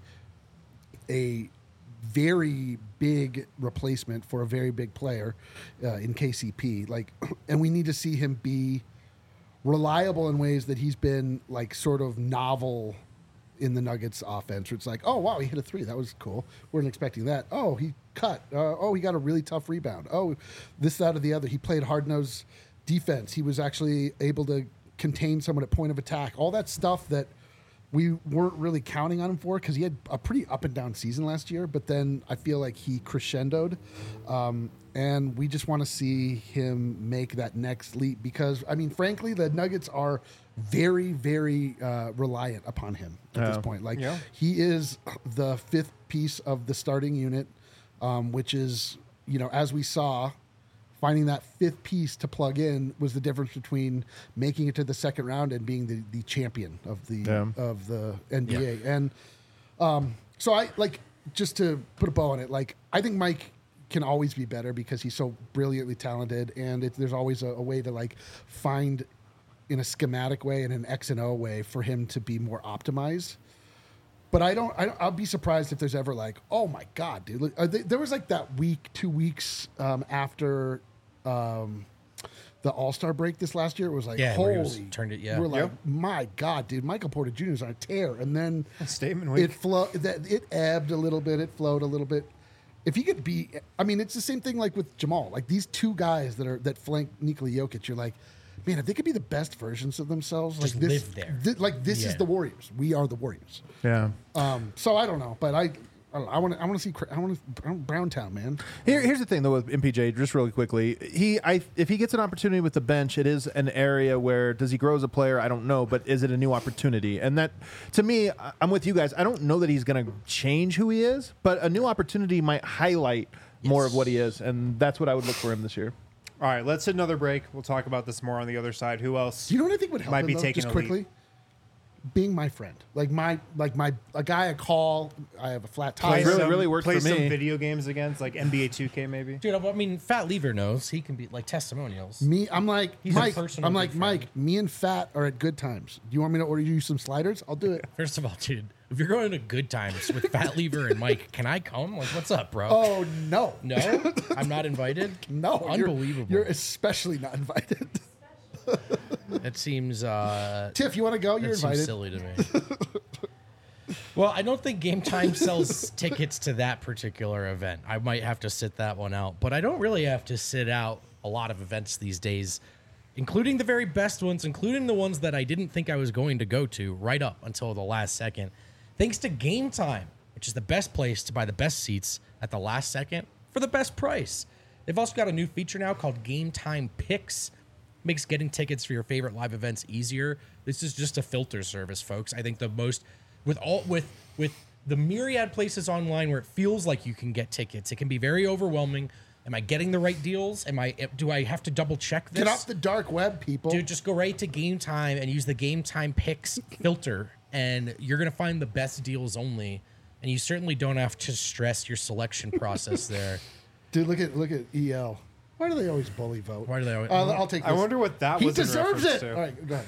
a very big replacement for a very big player uh, in K C P. Like, and we need to see him be reliable in ways that he's been like sort of novel in the Nuggets offense. Where it's like, oh wow, he hit a three. That was cool. Weren't expecting that. Oh, he cut. Uh, oh, he got a really tough rebound. Oh, this, that, or the other. He played hard nosed defense. He was actually able to contain someone at point of attack. All that stuff that we weren't really counting on him for because he had a pretty up and down season last year. But then I feel like he crescendoed. Um, and we just want to see him make that next leap because, I mean, frankly, the Nuggets are very, very uh, reliant upon him at Yeah. this point. Like, Yeah. he is the fifth piece of the starting unit, um, which is, you know, as we saw, finding that fifth piece to plug in was the difference between making it to the second round and being the, the champion of the Yeah. of the N B A. And um, so I like just to put a bow on it. Like, I think Mike can always be better because he's so brilliantly talented, and it, there's always a, a way to like find in a schematic way and an X and O way for him to be more optimized. But I don't, I don't. I'll be surprised if there's ever like, oh my god, dude! Look, are they, there was like that week, two weeks um, after um, the All Star break this last year. It was like, Yeah, where he holy, was- turned it- yeah. We're like, Yep. my god, dude! Michael Porter Junior is on a tear, and then Statement week. it flow that it ebbed a little bit, it flowed a little bit. if he could be, I mean, it's the same thing like with Jamal. Like these two guys that are that flank Nikola Jokic, you're like, man, if they could be the best versions of themselves, Just like this, live there. thi- like this Yeah. is the Warriors. We are the Warriors. Yeah. Um, so I don't know, but I, I want to, I want to see, Cra- I want to Brown Town, man. Here, here's the thing though with M P J, just really quickly. He, I, if he gets an opportunity with the bench, it is an area where does he grow as a player? I don't know, but is it a new opportunity? And that, to me, I- I'm with you guys. I don't know that he's going to change who he is, but a new opportunity might highlight more Yes. of what he is, and that's what I would look for him this year. All right, let's hit another break. We'll talk about this more on the other side. Who else? Do you know what I think would help Might him, be though, taking just a lead. quickly? Being my friend, like my, like my, a guy I call. I have a flat tire. It really, some, really works play for some me. video games against, like N B A two K maybe. Dude, I mean, Fat Lever knows he can be like testimonials. Me, I'm like He's a Mike. personal I'm like good friend. Mike. Me and Fat are at Good Times. Do you want me to order you some sliders? I'll do it. First of all, dude, if you're going to Good Times with Fat Lever and Mike, can I come? Like, what's up, bro? Oh no, No, I'm not invited. no, you're- Unbelievable. You're, especially not invited. That seems uh, Tiff, you want to go? You're that seems invited. silly to me. Well, I don't think Game Time sells tickets to that particular event. I might have to sit that one out, but I don't really have to sit out a lot of events these days, including the very best ones, including the ones that I didn't think I was going to go to right up until the last second. Thanks to Game Time, which is the best place to buy the best seats at the last second for the best price. They've also got a new feature now called Game Time Picks. Makes getting tickets for your favorite live events easier. This is just a filter service, folks. I think the most with all with with the myriad places online where it feels like you can get tickets, it can be very overwhelming. Am I getting the right deals? Am I do I have to double check this? Get off the dark web, people. Dude, just go right to Game Time and use the Game Time Picks filter, and you're gonna find the best deals only. And you certainly don't have to stress your selection process there. Dude, look at look at E L. Why do they always bully vote? Why do they always- Uh, I'll take. This. I wonder what that he was in deserves reference it. to. All right, go ahead.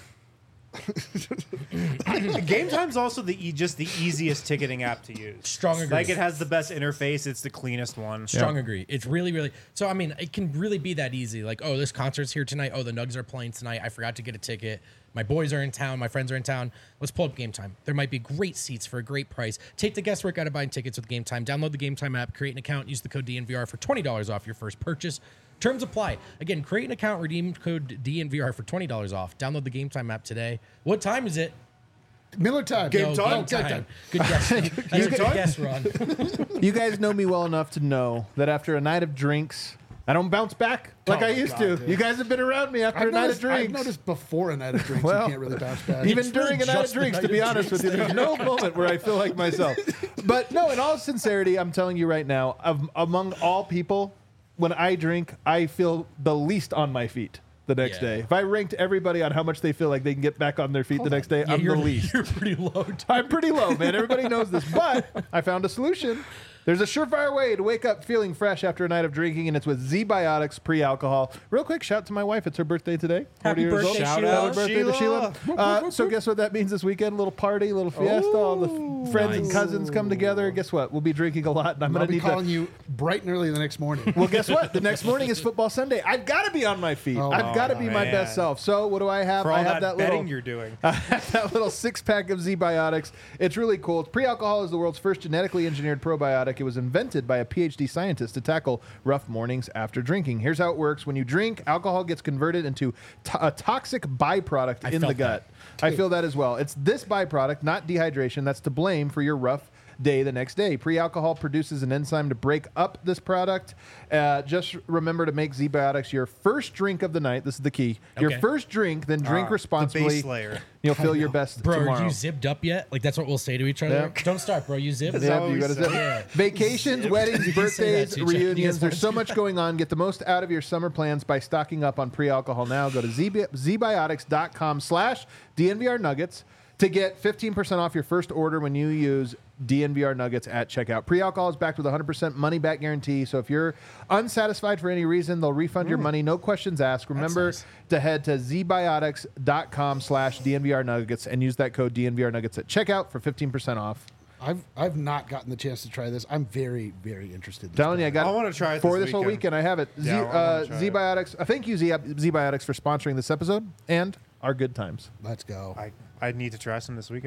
Game Time's also the e- just the easiest ticketing app to use. Strong agree. Like it has the best interface. It's the cleanest one. Strong agree. It's really, really. So I mean, it can really be that easy. Like, oh, this concert's here tonight. Oh, the Nugs are playing tonight. I forgot to get a ticket. My boys are in town. My friends are in town. Let's pull up Game Time. There might be great seats for a great price. Take the guesswork out of buying tickets with Game Time. Download the Game Time app. Create an account. Use the code D N V R for twenty dollars off your first purchase. Terms apply. Again, create an account. Redeem code D N V R for twenty dollars off. Download the Game Time app today. What time is it? Miller time. Game No, time? Game Game time. Good guess. That's a good time? guess, Ron. You guys know me well enough to know that after a night of drinks, I don't bounce back like Oh I my used God, to. dude. You guys have been around me after I've a night noticed, of drinks. I've noticed before a night of drinks, Well, you can't really bounce back. Even It's during really a night of just the drinks, to night be of honest with you, drinks there's no moment where I feel like myself. But no, in all sincerity, I'm telling you right now, of, among all people, when I drink, I feel the least on my feet the next Yeah. day. If I ranked everybody on how much they feel like they can get back on their feet the next day, Yeah, I'm the you're, least. you're pretty low. I'm pretty low, man. Everybody knows this. But I found a solution. There's a surefire way to wake up feeling fresh after a night of drinking, and it's with Z-Biotics pre-alcohol. Real quick, shout out to my wife. It's her birthday today. Happy forty years birthday, old. Shout Sheila. out, Happy birthday to Sheila. Sheila. Uh, so guess what that means this weekend? A little party, a little fiesta. All the f- friends and nice. cousins come together. Guess what? We'll be drinking a lot, and I'm I'll going to be need calling to... you bright and early the next morning. Well, guess what? The next morning is football Sunday. I've got to be on my feet. Oh, I've got to be my man. best self. So what do I have? For all I have that, that betting little... you're doing. I have that little six pack of Z-Biotics. It's really cool. Pre-alcohol is the world's first genetically engineered probiotic. It was invented by a P H D scientist to tackle rough mornings after drinking. Here's how it works. When you drink, alcohol gets converted into to- a toxic byproduct I in the felt gut. that. I feel that as well. It's this byproduct, not dehydration, that's to blame for your rough day the next day. Pre-alcohol produces an enzyme to break up this product. Uh, just remember to make Z-Biotics your first drink of the night. This is the key. Your Okay. first drink, then drink Ah, responsibly. The base layer. You'll feel your best Bro, tomorrow. are you zipped up yet? Like that's what we'll say to each other. Yeah. Don't start, bro. You zipped. That's Yeah, how you we gotta say zip. it. Yeah. Vacations, weddings, You can say that birthdays, to each other. You reunions. guys There's want so to- much going on. Get the most out of your summer plans by stocking up on pre-alcohol now. Go to zbiotics.com slash DNVR Nuggets to get fifteen percent off your first order when you use D N V R Nuggets at checkout. Pre-alcohol is backed with a one hundred percent money-back guarantee. So if you're unsatisfied for any reason, they'll refund your money. No questions asked. Remember nice. to head to zbiotics.com slash DNVR Nuggets and use that code D N V R Nuggets at checkout for fifteen percent off. I've I've not gotten the chance to try this. I'm very very interested. in this Telling you, I got I it wanna try it for this this whole weekend. weekend. I have it. Z, Yeah, I wanna uh, try it. Z-Biotics. Uh, thank you, Z- Z-Biotics, for sponsoring this episode and our good times. Let's go. I, I need to try some this weekend.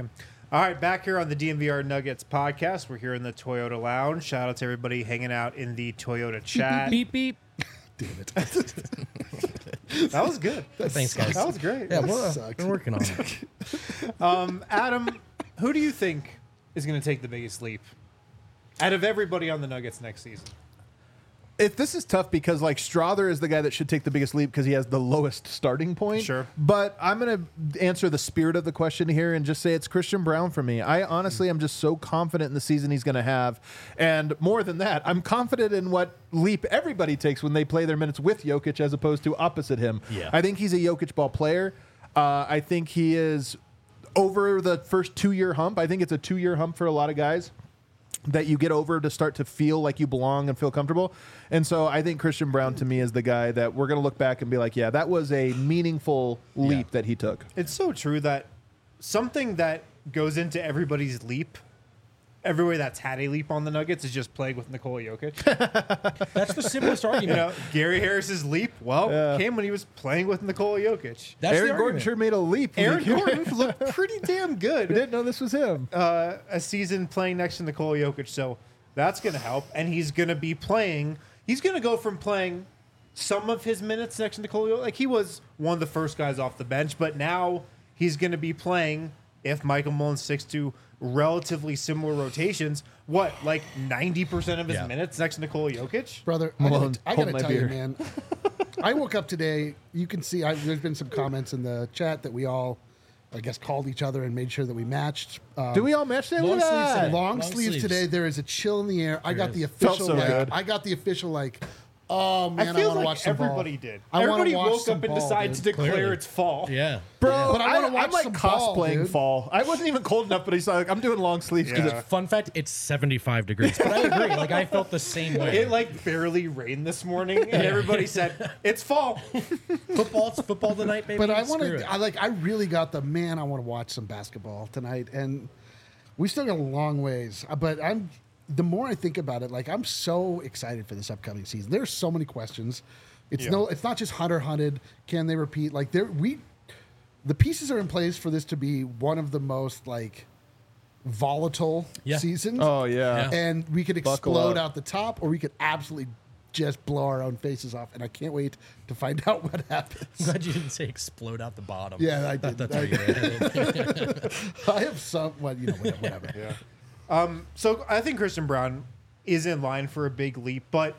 All right, back here on the D M V R Nuggets podcast. We're here in the Toyota Lounge. Shout out to everybody hanging out in the Toyota chat. Beep beep. Damn it. That was good. Thanks, guys. That was great. Yeah, we're, uh, sucked. we're working on it. Um, Adam, who do you think is going to take the biggest leap out of everybody on the Nuggets next season? If this is tough because like Strother is the guy that should take the biggest leap because he has the lowest starting point. Sure. But I'm going to answer the spirit of the question here and just say it's Christian Brown for me. I honestly am just so confident in the season he's going to have. And more than that, I'm confident in what leap everybody takes when they play their minutes with Jokic as opposed to opposite him. Yeah. I think he's a Jokic ball player. Uh, I think he is over the first two-year hump. I think it's a two-year hump for a lot of guys that you get over to start to feel like you belong and feel comfortable. And so I think Christian Brown to me is the guy that we're going to look back and be like, yeah, that was a meaningful leap Yeah. that he took. It's so true that something that goes into everybody's leap, everybody that's had a leap on the Nuggets, is just playing with Nikola Jokic. That's the simplest You argument. know, Gary Harris's leap, well, Yeah. came when he was playing with Nikola Jokic. That's Aaron the Gordon argument. sure made a leap. Aaron We Gordon looked pretty damn good. didn't know this was him. uh, a season playing next to Nikola Jokic, so that's going to help. And he's going to be playing. He's going to go from playing some of his minutes next to Nikola Jokic. Like, he was one of the first guys off the bench, but now he's going to be playing, if Michael Mullen sticks to relatively similar rotations, what, like ninety percent of his Yeah. minutes next to Nikola Jokic? Brother, I Malone, gotta, I hold gotta my tell beer. you, man. I woke up today. You can see I, there's been some comments in the chat that we all, I guess, called each other and made sure that we matched. Um, Do we all match that? long Look at sleeves that. today. long, Long sleeves, sleeves. today? There is a chill in the air. I got is. the Felt official so like. good. I got the official like. Oh man, I I, feel want to like watch some everybody ball. did. I wanna Everybody watch woke some up and ball, decided dude. to declare Clearly. it's fall. Yeah. Bro, But I wanna watch I'm like some ball, cosplaying dude. fall. I wasn't even cold enough, but he's like, I'm doing long sleeves because Yeah. it's Fun fact, it's seventy-five degrees. But I agree. Like, I felt the same way. It like barely rained this morning, and everybody said it's fall. football, it's football tonight, baby. But I Screw want it. to. I like. I really got the man. I want to watch some basketball tonight, and we still got a long ways. uh, But I'm. The more I think about it, like I'm so excited for this upcoming season. There's so many questions. It's Yeah. no. It's not just Hunter hunted. Can they repeat? Like there, we. The pieces are in place for this to be one of the most like volatile Yeah. seasons. Oh, yeah. Yeah. And we could Buckle explode up. out the top, or we could absolutely just blow our own faces off. And I can't wait to find out what happens. I'm glad you didn't say explode out the bottom. Yeah, I did. That's I where you're headed. I have some, well, you know, whatever. whatever. Yeah. Um, so I think Christian Brown is in line for a big leap, but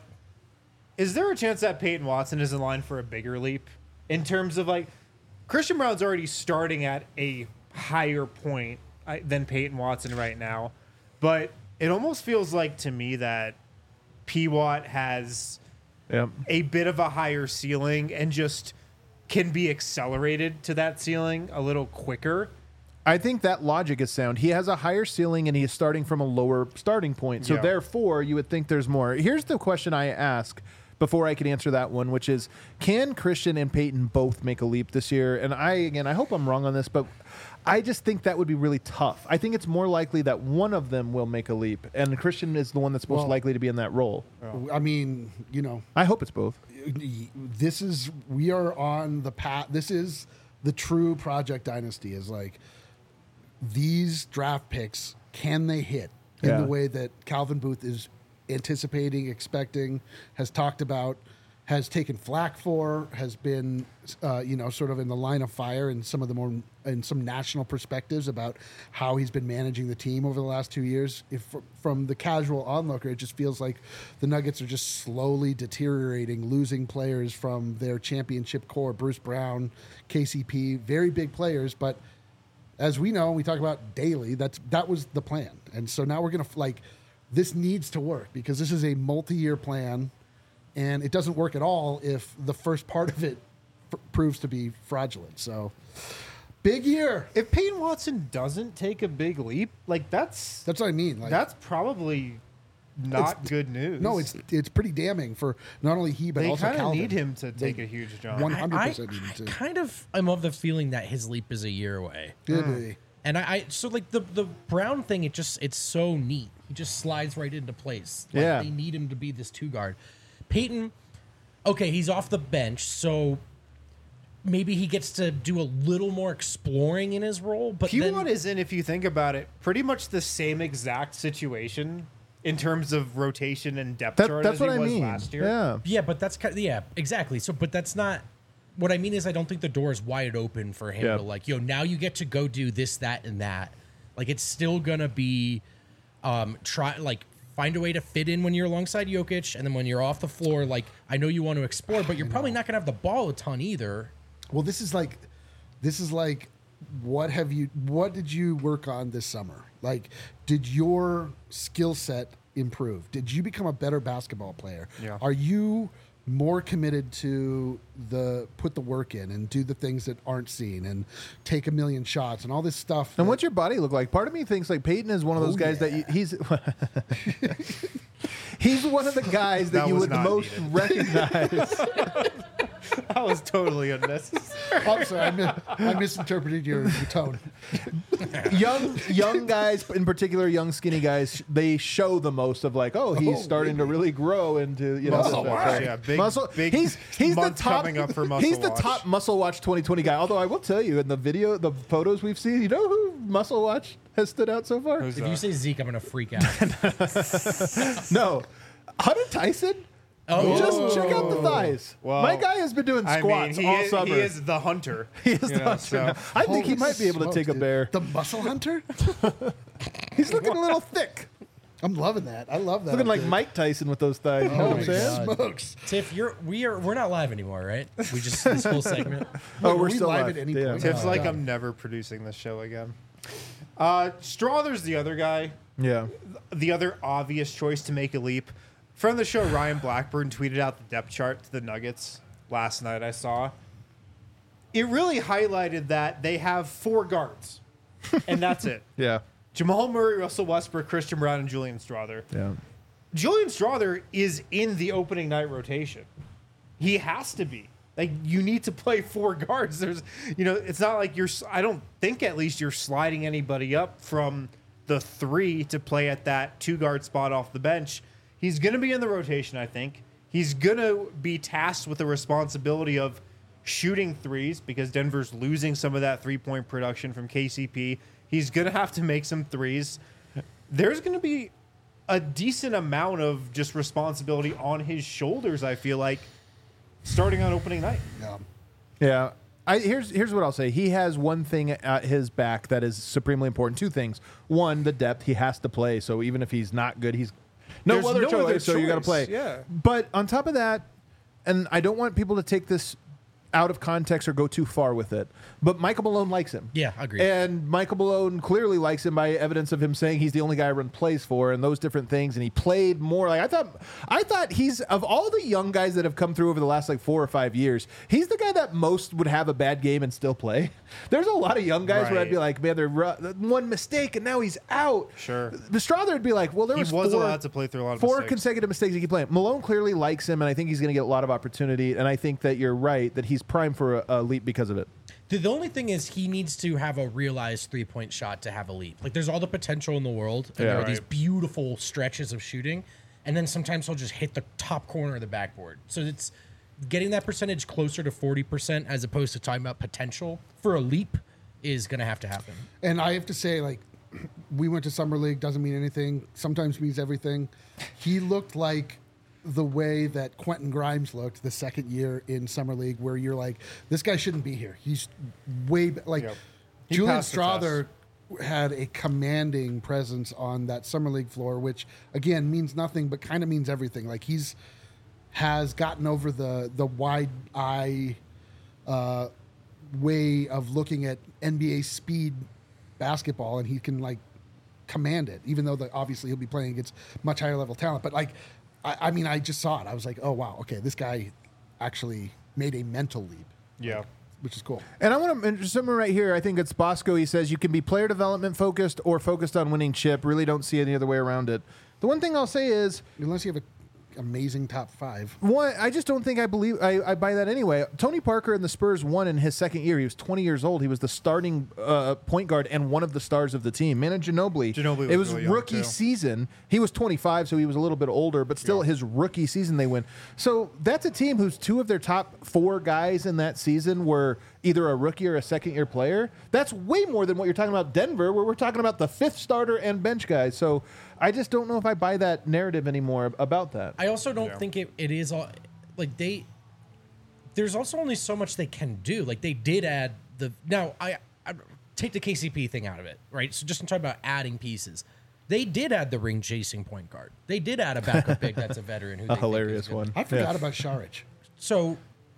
is there a chance that Peyton Watson is in line for a bigger leap in terms of like Christian Brown's already starting at a higher point uh, than Peyton Watson right now, but it almost feels like to me that P. Watt has yeah. a bit of a higher ceiling and just can be accelerated to that ceiling a little quicker. I think that logic is sound. He has a higher ceiling and he is starting from a lower starting point. So Yeah. therefore, you would think there's more. Here's the question I ask before I could answer that one, which is, can Christian and Peyton both make a leap this year? And I, again, I hope I'm wrong on this, but I just think that would be really tough. I think it's more likely that one of them will make a leap, and Christian is the one that's most Well- likely to be in that role. I mean, you know, I hope it's both. this is, we are on the path. This is the true Project Dynasty is like these draft picks, can they hit in Yeah. the way that Calvin Booth is anticipating, expecting, has talked about, has taken flack for, has been, uh, you know, sort of in the line of fire in some of the more, in some national perspectives about how he's been managing the team over the last two years. If from the casual onlooker, it just feels like the Nuggets are just slowly deteriorating, losing players from their championship core. Bruce Brown, K C P, very big players, but as we know, we talk about daily. That's that was the plan, and so now we're gonna like this needs to work because this is a multi-year plan, and it doesn't work at all if the first part of it f- proves to be fraudulent. So, big year. If Peyton Watson doesn't take a big leap, like that's That's what I mean. Like that's probably not It's- good news. no, it's it's pretty damning for not only he but they also kind of Calvin. need him to take a huge jump. One- I, I, one hundred percent needed I to. kind of am of the feeling that his leap is a year away. Good day. And I, I so like the the Brown thing, it just it's so neat. He just slides right into place. Like, Yeah. they need him to be this two guard. Peyton, okay, he's off the bench, so maybe he gets to do a little more exploring in his role. But P one then, is in, if you think about it, pretty much the same exact situation in terms of rotation and depth That, chart that's as what he I was mean. last year. Yeah. yeah, but that's kind of, yeah, exactly. So, but that's not what I mean. Is I don't think the door is wide open for him Yeah. to like, yo, now you get to go do this, that, and that. Like, it's still gonna be, um, try like find a way to fit in when you're alongside Jokic, and then when you're off the floor, like I know you want to explore, but you're probably not gonna have the ball a ton either. Well, this is like, this is like, what have you? What did you work on this summer? Like, did your skill set improve? Did you become a better basketball player? Yeah. Are you more committed to the put the work in and do the things that aren't seen and take a million shots and all this stuff? And that- what's your body look like? Part of me thinks like Peyton is one of those Oh, guys that you, he's he's one of the guys that, That you was would not most needed. recognize. That was totally unnecessary. I'm sorry, I, mi- I misinterpreted your, your tone. young young guys, in particular, young skinny guys, they show the most of like, oh, he's Oh, starting to really grow into you know Muscle this- watch, right. yeah, big- muscle. big he's he's the month top coming up for Muscle He's the Watch. top muscle watch twenty twenty guy. Although I will tell you, in the video, the photos we've seen, you know who muscle watch has stood out so far? Who's If that? you say Zeke, I'm gonna freak out. No, Hunter Tyson. Oh, Just check out the thighs. Well, My guy has been doing I squats mean, he, all is, summer. he is the hunter. He is you the know, hunter so- now. I think he Holy might be able to smokes, take a dude. bear. The muscle hunter? He's looking a little thick. I'm loving that. I love that. Looking like dude. Mike Tyson with those thighs. You know what I'm Holy saying? smokes. Tiff, you're we are we're not live anymore, right? We just this whole segment. Oh, Wait, we're are we still live live. at any Yeah. point? Tiff's Oh, like, God. I'm never producing this show again. Uh, Strother's the other guy, Yeah. the other obvious choice to make a leap. Friend of the show, Ryan Blackburn, tweeted out the depth chart to the Nuggets last night, I saw. It really highlighted that they have four guards, and that's it. Yeah. Jamal Murray, Russell Westbrook, Christian Brown, and Julian Strother. Yeah. Julian Strother is in the opening night rotation. He has to be. Like, you need to play four guards. There's, you know, it's not like you're, I don't think at least you're sliding anybody up from the three to play at that two guard spot off the bench. He's going to be in the rotation, I think. He's going to be tasked with the responsibility of shooting threes because Denver's losing some of that three point production from K C P. He's going to have to make some threes. There's going to be a decent amount of just responsibility on his shoulders, I feel like, starting on opening night. Yeah. Yeah. I, here's here's what I'll say. He has one thing at his back that is supremely important. Two things. One, the depth. He has to play. So even if he's not good, he's no There's other no choice. other So you got to play. choice, yeah. But on top of that, and I don't want people to take this out of context or go too far with it, but Michael Malone likes him. Yeah, agreed. And Michael Malone clearly likes him by evidence of him saying he's the only guy I run plays for and those different things. And he played more. Like I thought, I thought he's of all the young guys that have come through over the last like four or five years, he's the guy that most would have a bad game and still play. There's a lot of young guys where I'd be Right. like, man, they're ru- one mistake and now he's out. Sure. The Strother would be like, well, there He was, was four, allowed to play through a lot of four mistakes. consecutive mistakes he keep playing. Malone clearly likes him, and I think he's going to get a lot of opportunity. And I think that you're right that he's primed for a, a leap because of it. The, the only thing is he needs to have a realized three point shot to have a leap. Like there's all the potential in the world, and Yeah. there are these Right. beautiful stretches of shooting, and then sometimes he'll just hit the top corner of the backboard. So it's getting that percentage closer to forty percent as opposed to talking about potential for a leap is going to have to happen. And I have to say, like, we went to Summer League, doesn't mean anything, sometimes means everything. He looked like the way that Quentin Grimes looked the second year in Summer League, where you're like, this guy shouldn't be here. He's way, be- like, Yep. He Julian passed the Strother had a commanding presence on that Summer League floor, which, again, means nothing, but kind of means everything. Like, he's has gotten over the, the wide eye uh, way of looking at N B A speed basketball, and he can like command it, even though the, obviously he'll be playing against much higher level talent. But like, I, I mean, I just saw it. I was like, oh wow, okay, this guy actually made a mental leap, Yeah. which is cool. And I want to mention someone right here. I think it's Bosco. He says you can be player development focused or focused on winning chip. Really don't see any other way around it. The one thing I'll say is Unless you have a amazing top five. One, I just don't think I believe I, I buy that anyway. Tony Parker and the Spurs won in his second year. He was twenty years old. He was the starting uh, point guard and one of the stars of the team. Manu Ginobili. Ginobili was it was really young, rookie too. season. He was twenty-five, so he was a little bit older, but still Yeah. his rookie season they win. So that's a team whose two of their top four guys in that season were either a rookie or a second year player. That's way more than what you're talking about Denver, where we're talking about the fifth starter and bench guys. So I just don't know if I buy that narrative anymore about that. I also don't Yeah. think it, it is all like they. There's also only so much they can do. Like they did add the now I, I take the K C P thing out of it, right? So just in talking about adding pieces, they did add the ring chasing point guard. They did add a backup big that's a veteran who A they think is hilarious good. one. I forgot Yeah. about Saric. So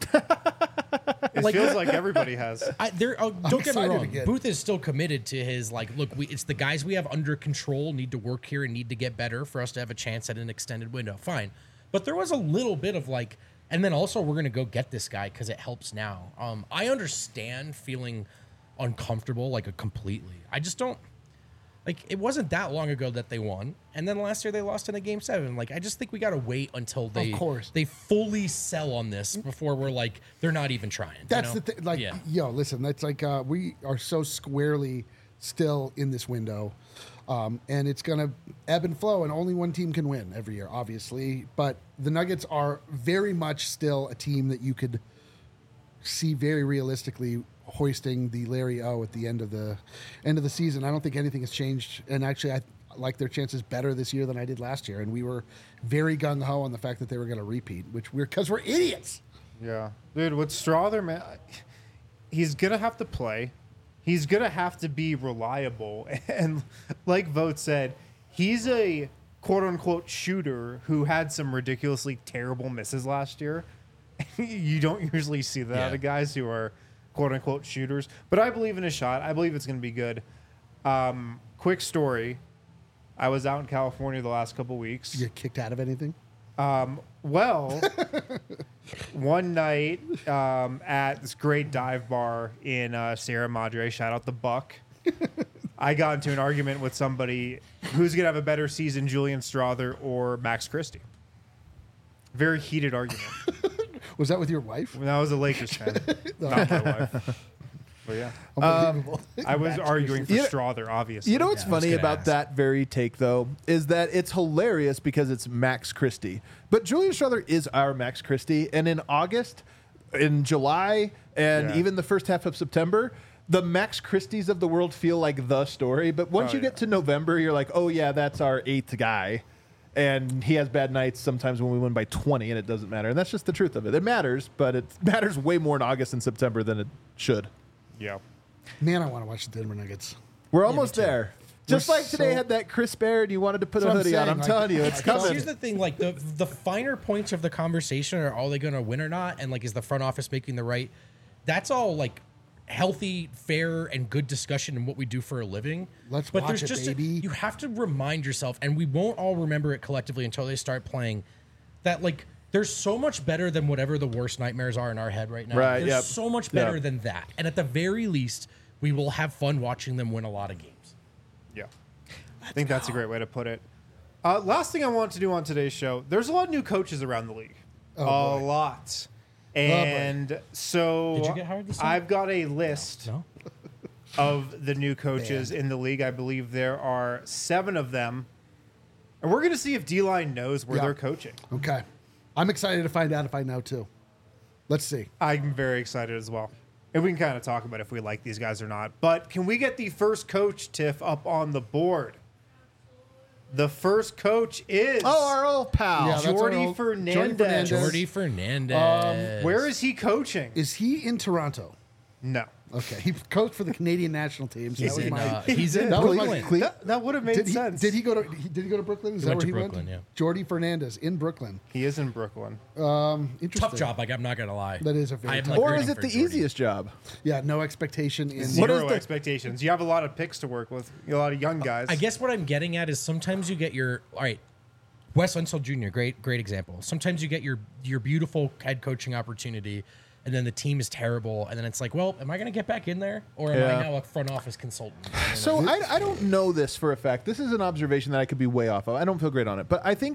It Like- feels like everybody has. I, there, oh, don't get me excited wrong. again. Booth is still committed to his like. Look, we, it's the guys we have under control need to work here and need to get better for us to have a chance at an extended window. Fine, but there was a little bit of like, and then also we're gonna go get this guy because it helps now. Um, I understand feeling uncomfortable like a completely. I just don't. Like it wasn't that long ago that they won, and then last year they lost in a game seven. Like I just think we gotta wait until they course. they fully sell on this before we're like they're not even trying. you That's know? the thing. Like, yeah. yo, listen, that's like uh, we are so squarely still in this window, um, and it's gonna ebb and flow, and only one team can win every year, obviously. But the Nuggets are very much still a team that you could see very realistically hoisting the Larry O at the end of the end of the season. I don't think anything has changed, and actually, I like their chances better this year than I did last year. And we were very gung ho on the fact that they were going to repeat, which we're because we're idiots. Yeah, dude. With Strother, man, he's gonna have to play. He's gonna have to be reliable, and like Vogt said, he's a quote unquote shooter who had some ridiculously terrible misses last year. You don't usually see that Yeah. out of guys who are quote unquote shooters, but I believe in his shot. I believe it's gonna be good. Um, quick story: I was out in California the last couple weeks. You get kicked out of anything? Well, one night um, at this great dive bar in uh, Sierra Madre, shout out the Buck, I got into an argument with somebody who's going to have a better season, Julian Strother or Max Christie. Very heated argument. Was that with your wife? When I was a Lakers fan, not my wife. But yeah, Unbelievable. I was arguing for You know- Strother, obviously. You know what's Yeah, I was funny gonna about ask. that very take, though, is that it's hilarious because it's Max Christie. But Julian Strother is our Max Christie. And in August, in July, and Yeah. even the first half of September, the Max Christies of the world feel like the story. But once Oh, you get yeah. to November, you're like, oh, yeah, that's our eighth guy. And he has bad nights sometimes when we win by twenty, and it doesn't matter. And that's just the truth of it. It matters, but it matters way more in August and September than it should. Yeah. Man, I want to watch the Denver Nuggets. We're almost too. there. Just We're like today so- had that crisp air and you wanted to put That's a what I'm hoodie on. saying, I'm like, telling you, it's I felt- coming. Here's the thing: like the the finer points of the conversation are are they going to win or not, and like is the front office making the right? That's all like healthy, fair, and good discussion in what we do for a living. Let's but watch there's it, just a- baby. you have to remind yourself, and we won't all remember it collectively until they start playing. That like there's so much better than whatever the worst nightmares are in our head right now. Right, There's yep. so much better Yep. than that, and at the very least, we will have fun watching them win a lot of games. Yeah. I think that's a great way to put it. Uh, last thing I want to do on today's show, there's a lot of new coaches around the league. Oh, a boy. lot. And so Did you get hired this time? I've got a list No. of the new coaches in the league. I believe there are seven of them. And we're going to see if D-Line knows where Yeah. they're coaching. Okay. I'm excited to find out if I know too. Let's see. I'm very excited as well. And we can kind of talk about if we like these guys or not. But can we get the first coach, Tiff, up on the board? The first coach is Oh, our old pal. Yeah, that's our Jordy old- Jordy Fernandez. Fernandez. Jordy Fernandez. Where is he coaching? Is he in Toronto? No. Okay. He coached for the Canadian national team. So He's that was in, my. uh, he's in that was my- Brooklyn. Cle- That, that would have made did, he, sense. did he go to? He, did he go to Brooklyn? Is He that went where to he Brooklyn, went? yeah. Jordy Fernandez in Brooklyn. He is in Brooklyn. Interesting. Tough job. Like I'm not gonna lie. That is a very I'm, tough- like, Or rooting is it for the Jordy. easiest job? Yeah. No expectation in. What Zero is the- expectations. You have a lot of picks to work with. A lot of young guys. I guess what I'm getting at is sometimes you get your all right. Wes Unseld Junior, great, great example. Sometimes you get your your beautiful head coaching opportunity, and then the team is terrible, and then it's like, well, am I going to get back in there, or am Yeah. I now a front office consultant? And then, So like, I, I don't know this for a fact. This is an observation that I could be way off of. I don't feel great on it. But I think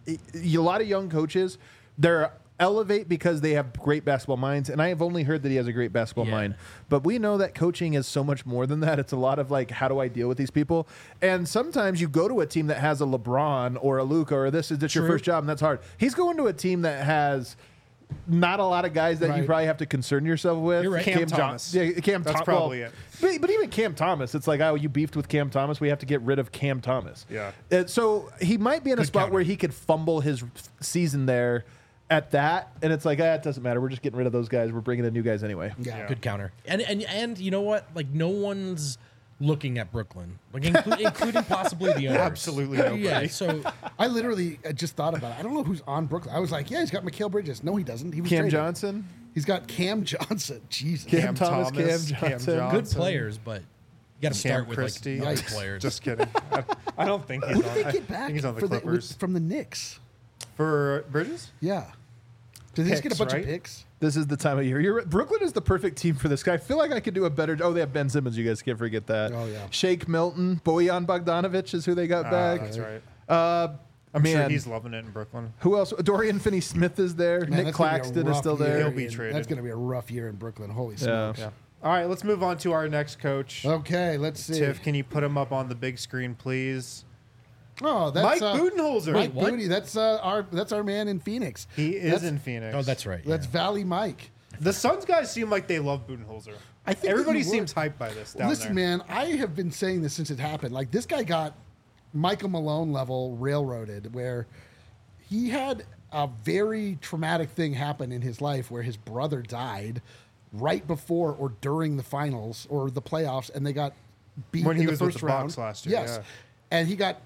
a lot of young coaches, they're elevate because they have great basketball minds, and I have only heard that he has a great basketball Yeah. mind. But we know that coaching is so much more than that. It's a lot of like, how do I deal with these people? And sometimes you go to a team that has a LeBron or a Luka or this is just your True. first job, and that's hard. He's going to a team that has not a lot of guys that you Right. probably have to concern yourself with. You're right. Cam Jon- Thomas. yeah, Cam That's Thom- probably well, it. But, but even Cam Thomas, it's like, oh, you beefed with Cam Thomas. We have to get rid of Cam Thomas. Yeah. Uh, so he might be in a Good spot counter. where he could fumble his season there at that, and it's like, ah, it doesn't matter. We're just getting rid of those guys. We're bringing in new guys anyway. Yeah. Good counter. And and and you know what? Like no one's looking at Brooklyn, like inclu- including possibly the owners. Absolutely nobody. Yeah. So I literally uh, just thought about it. I don't know who's on Brooklyn. I was like, yeah, he's got Mikal Bridges. No, he doesn't. He was Cam traded. Johnson, He's got Cam Johnson. Jesus. Cam Thomas, Cam Johnson. good Johnson, players, but you got to Cam start with Christie. like other Yikes. players. Just kidding. I, I don't think he's Who on. did they I get back think he's on the for the, Clippers. with, from the Knicks? For Bridges? Yeah. Did they just get a Picks, bunch right? of picks? this is the time of year. You're, Brooklyn is the perfect team for this guy. I feel like I could do a better. Oh, they have Ben Simmons. You guys can't forget that. Oh, yeah. Shake Milton, Bojan Bogdanovic is who they got Ah, back. that's right. Uh, I'm man, sure he's loving it in Brooklyn. who else? Dorian Finney-Smith is there. Man, Nick that's gonna be a Claxton is rough still year there. He'll be in- traded. That's going to be a rough year in Brooklyn. Holy Yeah. smokes. Yeah. All right, let's move on to our next coach. Okay, let's see. Tiff, can you put him up on the big screen, please? Oh, that's Mike uh, Budenholzer. Mike what? Booty. That's uh, our that's our man in Phoenix. He is That's- in Phoenix. Oh, that's right. That's yeah. Valley Mike. The Suns guys seem like they love Budenholzer. I think that Everybody you would. seems hyped by this down Listen, there. man, I have been saying this since it happened. Like this guy got Michael Malone level railroaded, where he had a very traumatic thing happen in his life, where his brother died right before or during the finals or the playoffs, and they got beat When in he the was with first the round Bucks last year, Yes, yeah. and he got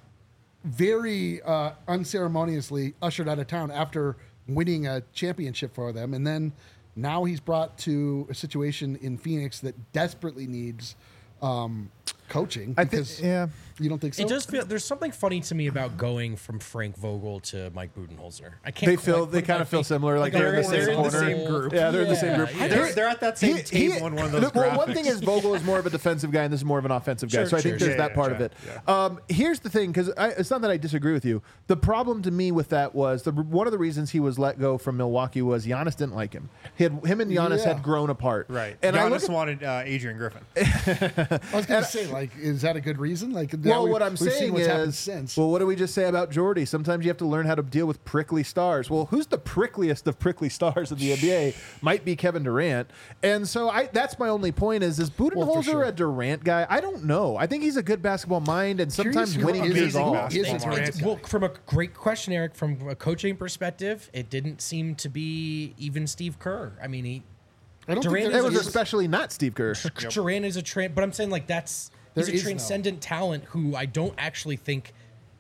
very uh, unceremoniously ushered out of town after winning a championship for them, and then now he's brought to a situation in Phoenix that desperately needs um, coaching. I think, Because yeah. you don't think so? It does feel there's something funny to me about going from Frank Vogel to Mike Budenholzer. I can't. They quite feel- they put kinda my feel finger- similar, like they're in the they're same in the corner. same group. Yeah, they're in the same group. yeah. They're, they're at that same He- table he- in one of those look, well, one graphics. thing is Vogel is more of a defensive guy, and this is more of an offensive guy. Sure, so I sure, think there's sure. that Yeah, part yeah, of it. yeah. Um, here's the thing, because it's not that I disagree with you. The problem to me with that was the one of the reasons he was let go from Milwaukee was Giannis didn't like him. He had, him and Giannis Yeah. had grown apart. Right. And I look Giannis at, wanted uh, Adrian Griffin. I was going to say, like, is that a good reason? Like, now well, we- what I'm we've seen saying what's happened is, since. well, what do we just say about Jordy? Sometimes you have to learn how to deal with prickly stars. Well, who's the prickliest of prickly stars in the N B A? Might be Kevin Durant. And so I that's my only point is, is Budenholzer sure. a Durant guy? I don't know. I think he's a good basketball mind, and sometimes Curious who winning is his amazing all. basketball Is a mind. Durant It's- guy. well, from a great question, Eric, from a coaching perspective, it didn't seem to be even Steve Kerr. I mean, he I don't Durant think It there was is- especially not Steve Kerr. Durant is a tran but I'm saying like that's There he's is a no- transcendent talent who I don't actually think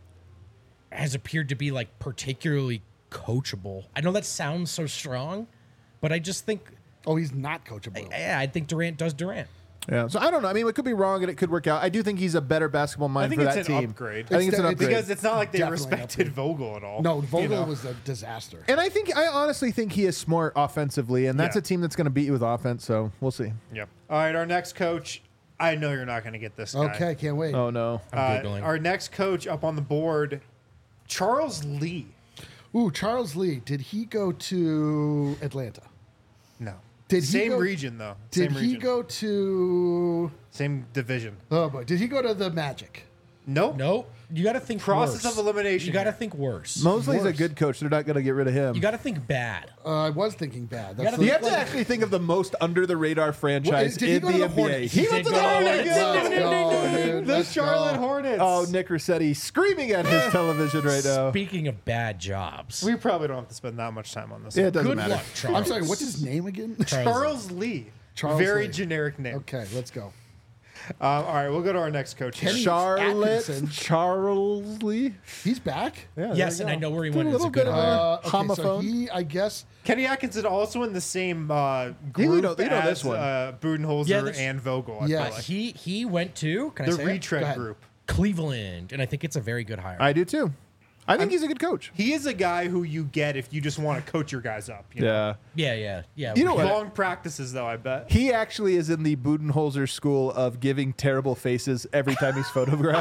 has appeared to be like particularly coachable. I know that sounds so strong, but I just think Oh, he's not coachable. yeah, I think Durant does Durant. Yeah. So I don't know. I mean, it could be wrong, and it could work out. I do think he's a better basketball mind I think for it's that an team. upgrade. I think it's, It's an de- upgrade. Because it's not like they Definitely respected upgrade. Vogel at all. No, you Vogel know? was a disaster. and I think I honestly think he is smart offensively, and that's Yeah. a team that's going to beat you with offense. So we'll see. Yep. All right, our next coach. I know you're not going to get this guy. Okay, can't wait. Oh no. Uh, I'm Googling. our next coach up on the board, Charles Lee. Ooh, Charles Lee. Did he go to Atlanta? No. Did he Same go- region though. Did Same he region. go to? Same division. Oh boy, did he go to the Magic? Nope. No, you got to think Process worse. of elimination You got to here. think worse. Mosley's a Worse. good coach. They're not going to get rid of him. You got to think bad. Uh, I was thinking bad. That's gotta the- You have to actually think of the most under the radar franchise did he in go to the the N B A. Hornets? He He went did to the go to the Hornets. Let's go, dude. The Let's Charlotte go. Hornets. Oh, Nick Rossetti screaming at his television right now. Speaking of bad jobs, We probably don't have to spend that much time on this. Yeah, it one. doesn't good matter. luck, Charles. I'm sorry. What's his name again? Charles Lee. Charles Very Lee. generic name. Okay, let's go. Um, all right, we'll go to our next coach. here. Kenny Charlotte Atkinson. Charles Lee. He's back. Yeah, there Yes, you and I go. know where he Did went. a It's a little good bit of hire. a Uh, okay, so homophone. he, I guess, Kenny Atkinson also in the same uh, You group know- you know as this one. Uh, Budenholzer Yeah, this- and Vogel. I Yes. feel like. He he went to can I The say it? Go retread ahead. group. Cleveland, and I think it's a very good hire. I do too. I think he's a good coach. He is a guy who you get if you just want to coach your guys up. You know? Yeah. yeah, yeah, yeah. You know what? Long practices, though, I bet. He actually is in the Budenholzer school of giving terrible faces every time he's photographed.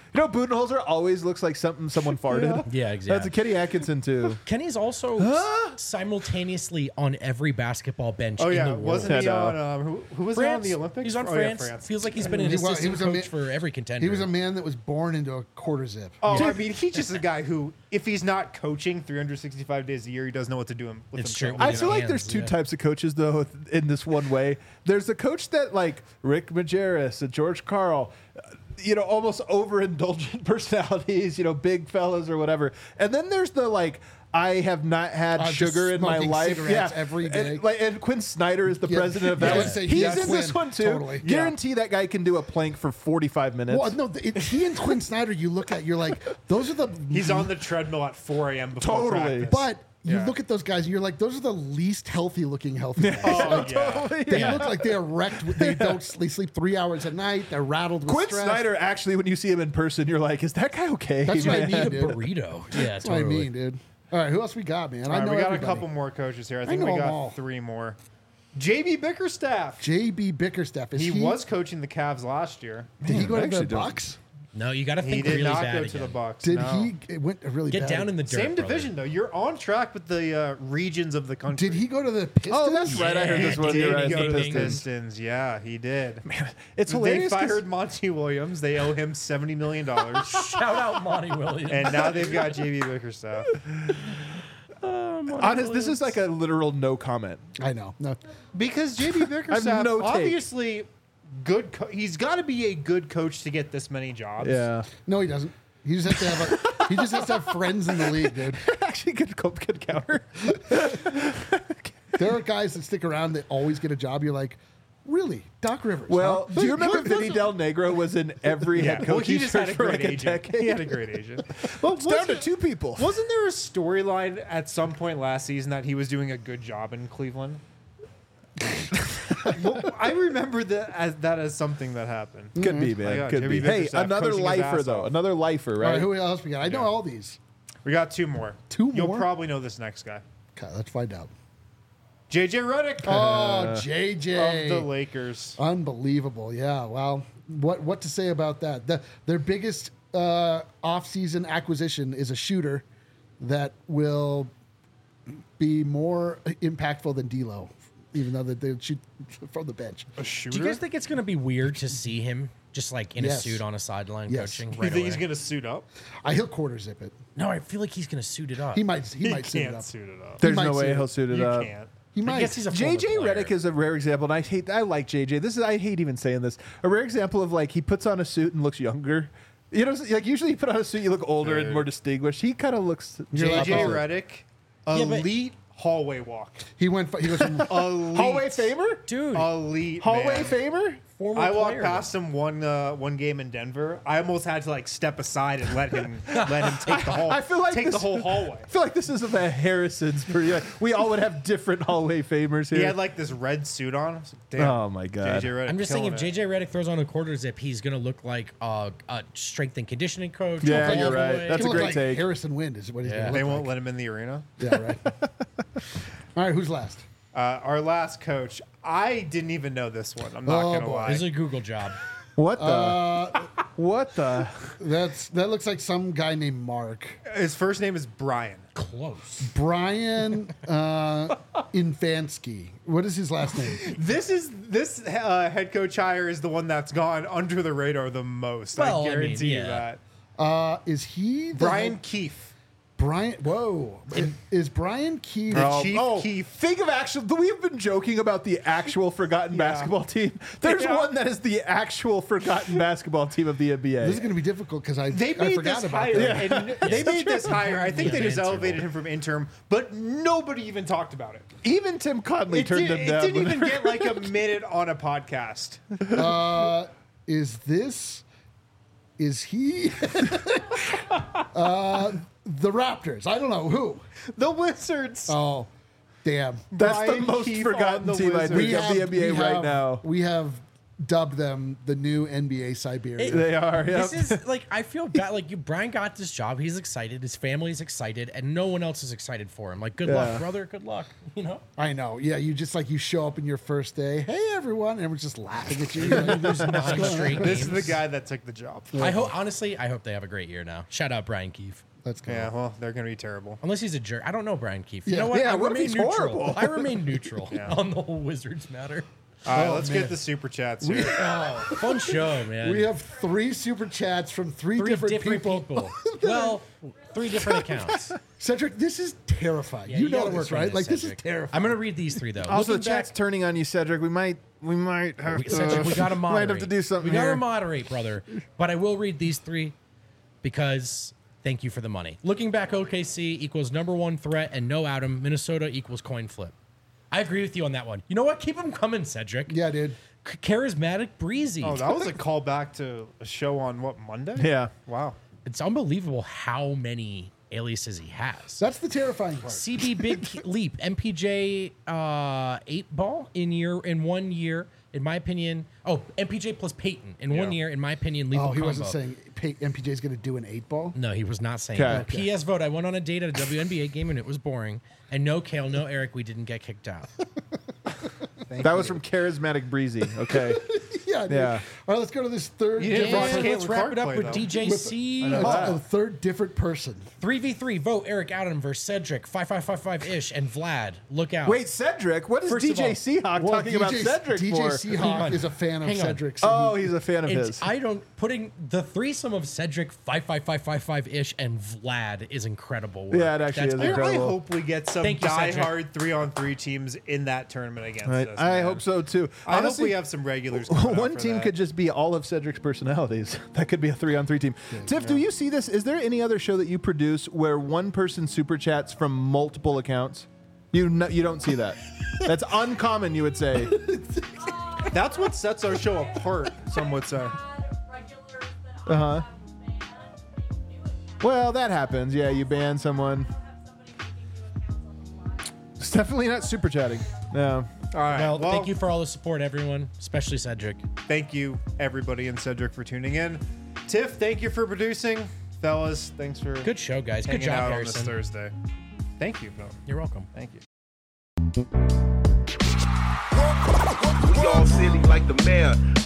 You know, Budenholzer always looks like something someone farted. Yeah, exactly. That's a Kenny Atkinson too. Kenny's also simultaneously on every basketball bench Oh in yeah, the world. wasn't he I know. on? Um, who, who was he on France. the Olympics? He's on Oh, yeah, France. France. Feels like he's been an He was- he assistant was a coach ma- for every contender. He was a man that was born into a quarter zip. Oh, I mean, he's just a guy who, if he's not coaching three hundred sixty-five days a year, he doesn't know what to do him with It's himself. true. I With feel his like there's hands, two yeah. types of coaches though in this one way. There's the coach that like Rick Majerus and George Karl, uh, you know, almost overindulgent personalities, you know, big fellas or whatever. And then there's the like, I have not had Uh, just sugar in my smoking life. cigarettes Yeah, every day. And, like, and Quinn Snyder is the Yeah. president of Yeah, that. I one. would say He's yes, in this Quinn. one too. Totally. Yeah. Guarantee that guy can do a plank for forty-five minutes. Well, no, it, he and Quinn Snyder, you look at, you're like, those are the. He's on the treadmill at four a.m. before Totally. practice. But you Yeah. look at those guys and you're like, those are the least healthy looking healthy guys. oh, yeah. Totally. They Yeah. look like they are wrecked. with- They don't. They sleep three hours a night. They're rattled with Quinn stress. Snyder, actually, when you see him in person, you're like, is that guy okay? That's what I man? mean, a dude. burrito. Yeah, That's what I mean, dude. All right, who else we got, man? All I right, know we got everybody. a couple more coaches here. I think know we them got all. three more. J B Bickerstaff. J B Bickerstaff. Is He, he, was coaching the Cavs last year. Did he go I to actually the don't- Bucks? No, you got to He think did really not bad go again. to the Bucks. Did no. he? It went really Get bad. down in the dirt. Same brother. division though. You're on track with the uh, regions of the country. Did he go to the Pistons? Oh, that's right. I heard this Yeah, one. did You're he right. go The to the Pistons. Pistons? Yeah, he did. It's They hilarious. 'cause- fired Monty Williams. They owe him seventy million dollars, Shout out Monty Williams. and now they've got J B Bickerstaff. Honest, this is like a literal no comment. I know. No, Because J B Bickerstaff, no take. obviously, good. Co- he's got to be a good coach to get this many jobs. Yeah. no, he doesn't. He just has to have. A, he just has to have friends in the league, dude. Actually, good, good counter. There are guys that stick around that always get a job. You're like, really, Doc Rivers? Well, huh? do you remember Vinny Del Negro was in every Yeah. head Well, coach he just had a for great like a agent. decade? He had a great agent. Well, it's down to wasn't- two people. Wasn't there a storyline at some point last season that he was doing a good job in Cleveland? Well, I remember that as that as something that happened. Could be, Oh, man. yeah, Could Jimmy be. Hey, Bickerstaff another coaching his lifer ass though. off. Another lifer, All right? right, who else we got? I know Yeah. all these. We got two more. Two You'll more? probably know this next guy. Okay, let's find out. J J Redick Oh, J J. of the Lakers. Unbelievable. Yeah. Well, what what to say about that? The, their biggest uh, offseason acquisition is a shooter that will be more impactful than D'Lo, even though they they shoot from the bench. A shooter. Do you guys think it's going to be weird to see him just like in Yes. a suit on a sideline Yes. coaching you right think he's away? gonna suit up? I he'll quarter zip it. No, I feel like he's going to suit it up. He might he, He might suit it can't up. suit it up. There's might no way suit he'll it. suit it You up. can't. He I might. guess he's a J J former player. Redick is a rare example, and I hate. I like J J. This is I hate even saying this. A rare example of like he puts on a suit and looks younger. You know, like usually you put on a suit, you look older and Dude. more distinguished. He kind of looks. You're J like, J oh. Redick, but- elite hallway walk. he went. He goes from Elite. Hallway Famer. Dude, Elite. Hallway man. Famer. former I walked player. past him one uh, one game in Denver. I almost had to like step aside and let him let him take the whole I feel like take this- the whole hallway. I feel like this is a Harrison's pretty. Like, we all would have different hallway famers here. He had like this red suit on. I was like, Damn. Oh, my God. J J Redick I'm just saying, if killing J it. J Redick throws on a quarter zip, he's going to look like uh, a strength and conditioning coach. Yeah, all you're the right. way. That's He'll a look great like take. Harrison Wind is what he's Yeah. going they to look won't like. let him in the arena. Yeah, right. All right, who's last? Uh, our last coach, I didn't even know this one. I'm not Oh, gonna boy. lie. This is a Google job. What the? Uh, what the? that's that looks like some guy named Mark. His first name is Brian. Close. Brian uh, Infansky. What is his last name? This is this uh, head coach hire is the one that's gone under the radar the most. Well, I I mean, guarantee you yeah. that. Uh, is he the Brian head- Keefe. Brian? Whoa, is, is Brian Key? The Chief oh, Keef. think of actual. We've been joking about the actual forgotten Yeah. basketball team. There's Yeah. one that is the actual forgotten basketball team of the N B A. This is going to be difficult because I They I made forgot this about hire. that. And they made this hire. I think Yeah, they just answer. elevated him from interim, but nobody even talked about it. Even Tim Conley It, turned did, him it down. didn't even get like a minute on a podcast. Uh, is this? Is he? uh, the Raptors. I don't know who. The Wizards. Oh, damn. That's the Brian most Keefe forgotten on the team I Wizards. think of the N B A we right have- now. We have dub them the new N B A Siberia. They are. Yep. This is like I feel bad. Like you, Brian got this job. He's excited. His family's excited, and no one else is excited for him. Like, good Yeah. luck, brother. Good luck. You know. I know. Yeah, you just like you show up in your first day. Hey, everyone, and everyone's just laughing at you. You're like, There's nine straight This is games. the guy that took the job. I hope. Honestly, I hope they have a great year now. Shout out Brian Keefe. Let's go. Yeah, well, they're gonna be terrible. Unless he's a jerk. I don't know Brian Keefe. You Yeah. know what? Yeah, I what if remain he's neutral. horrible? I remain neutral Yeah. on the whole Wizards matter. All right, Oh, let's man. get the super chats here. Oh, fun show, man. We have three super chats from three, three different, different, people. people. well, three different accounts. Cedric, this is terrifying. Yeah, you, you know gotta this, work on right? this, Like this is Cedric. terrifying. I'm gonna read these three though. Also, the Looking chat's back- turning on you, Cedric. We might, we might have we, to. Cedric, we gotta moderate. Might have to do something We gotta here. moderate, brother. But I will read these three because thank you for the money. Looking back, O K C equals number one threat and no Adam. Minnesota equals coin flip. I agree with you on that one. You know what? Keep them coming, Cedric. Yeah, dude. C- charismatic, breezy. Oh, that was a callback to a show on what, Monday? Yeah. Wow. It's unbelievable how many aliases he has. That's the terrifying part. C B Big Leap, M P J uh, eight ball in year in one year, in my opinion. Oh, M P J plus Peyton in one Yeah. year, in my opinion. Lethal Oh, he combo. wasn't saying P- M P J's going to do an eight ball. No, he was not saying Okay. that. P S vote. I went on a date at a W N B A game and it was boring. And no Kale, no Eric. We didn't get kicked out. That was from Charismatic Breezy. Okay. Yeah, dude. Yeah. All right, let's go to this third. You didn't different- watch And Caitlin let's wrap Clark it up play, with though. D J C. Oh, that. a third different person. three v three. Vote Eric Adam versus Cedric. five five five five ish. And Vlad. Look out. Wait, Cedric. What is First of D J all- Seahawk Well, talking D J about Cedric D J for? Seahawk Hang on. is a fan of Hang on. Cedric's. Oh, he's a fan of It's, his. I don't putting the threesome of Cedric five five five five five ish and Vlad is incredible. Work. Yeah, it actually That's is I really incredible. hope we get some Thank you, Cedric. diehard three on three teams in that tournament against I, us. I man. hope so too. I Honestly, hope we have some regulars. coming out one for team that. could just be all of Cedric's personalities. That could be a three-on-three team. Tiff, do you see this? Is there any other show that you produce where one person super chats from multiple accounts? You no, you don't see that. That's uncommon, you would say. That's what sets our show apart. Some would say. Uh huh. Well, that happens. Yeah, you ban someone. It's definitely not super chatting. No. All right. Well, Well, thank you for all the support, everyone, especially Cedric. Thank you, everybody, and Cedric for tuning in. Tiff, thank you for producing. Fellas, thanks for Good show, guys. Good hanging job, out on this Harrison. Thursday. Thank you. No, You're welcome. thank you. We all silly like the mayor.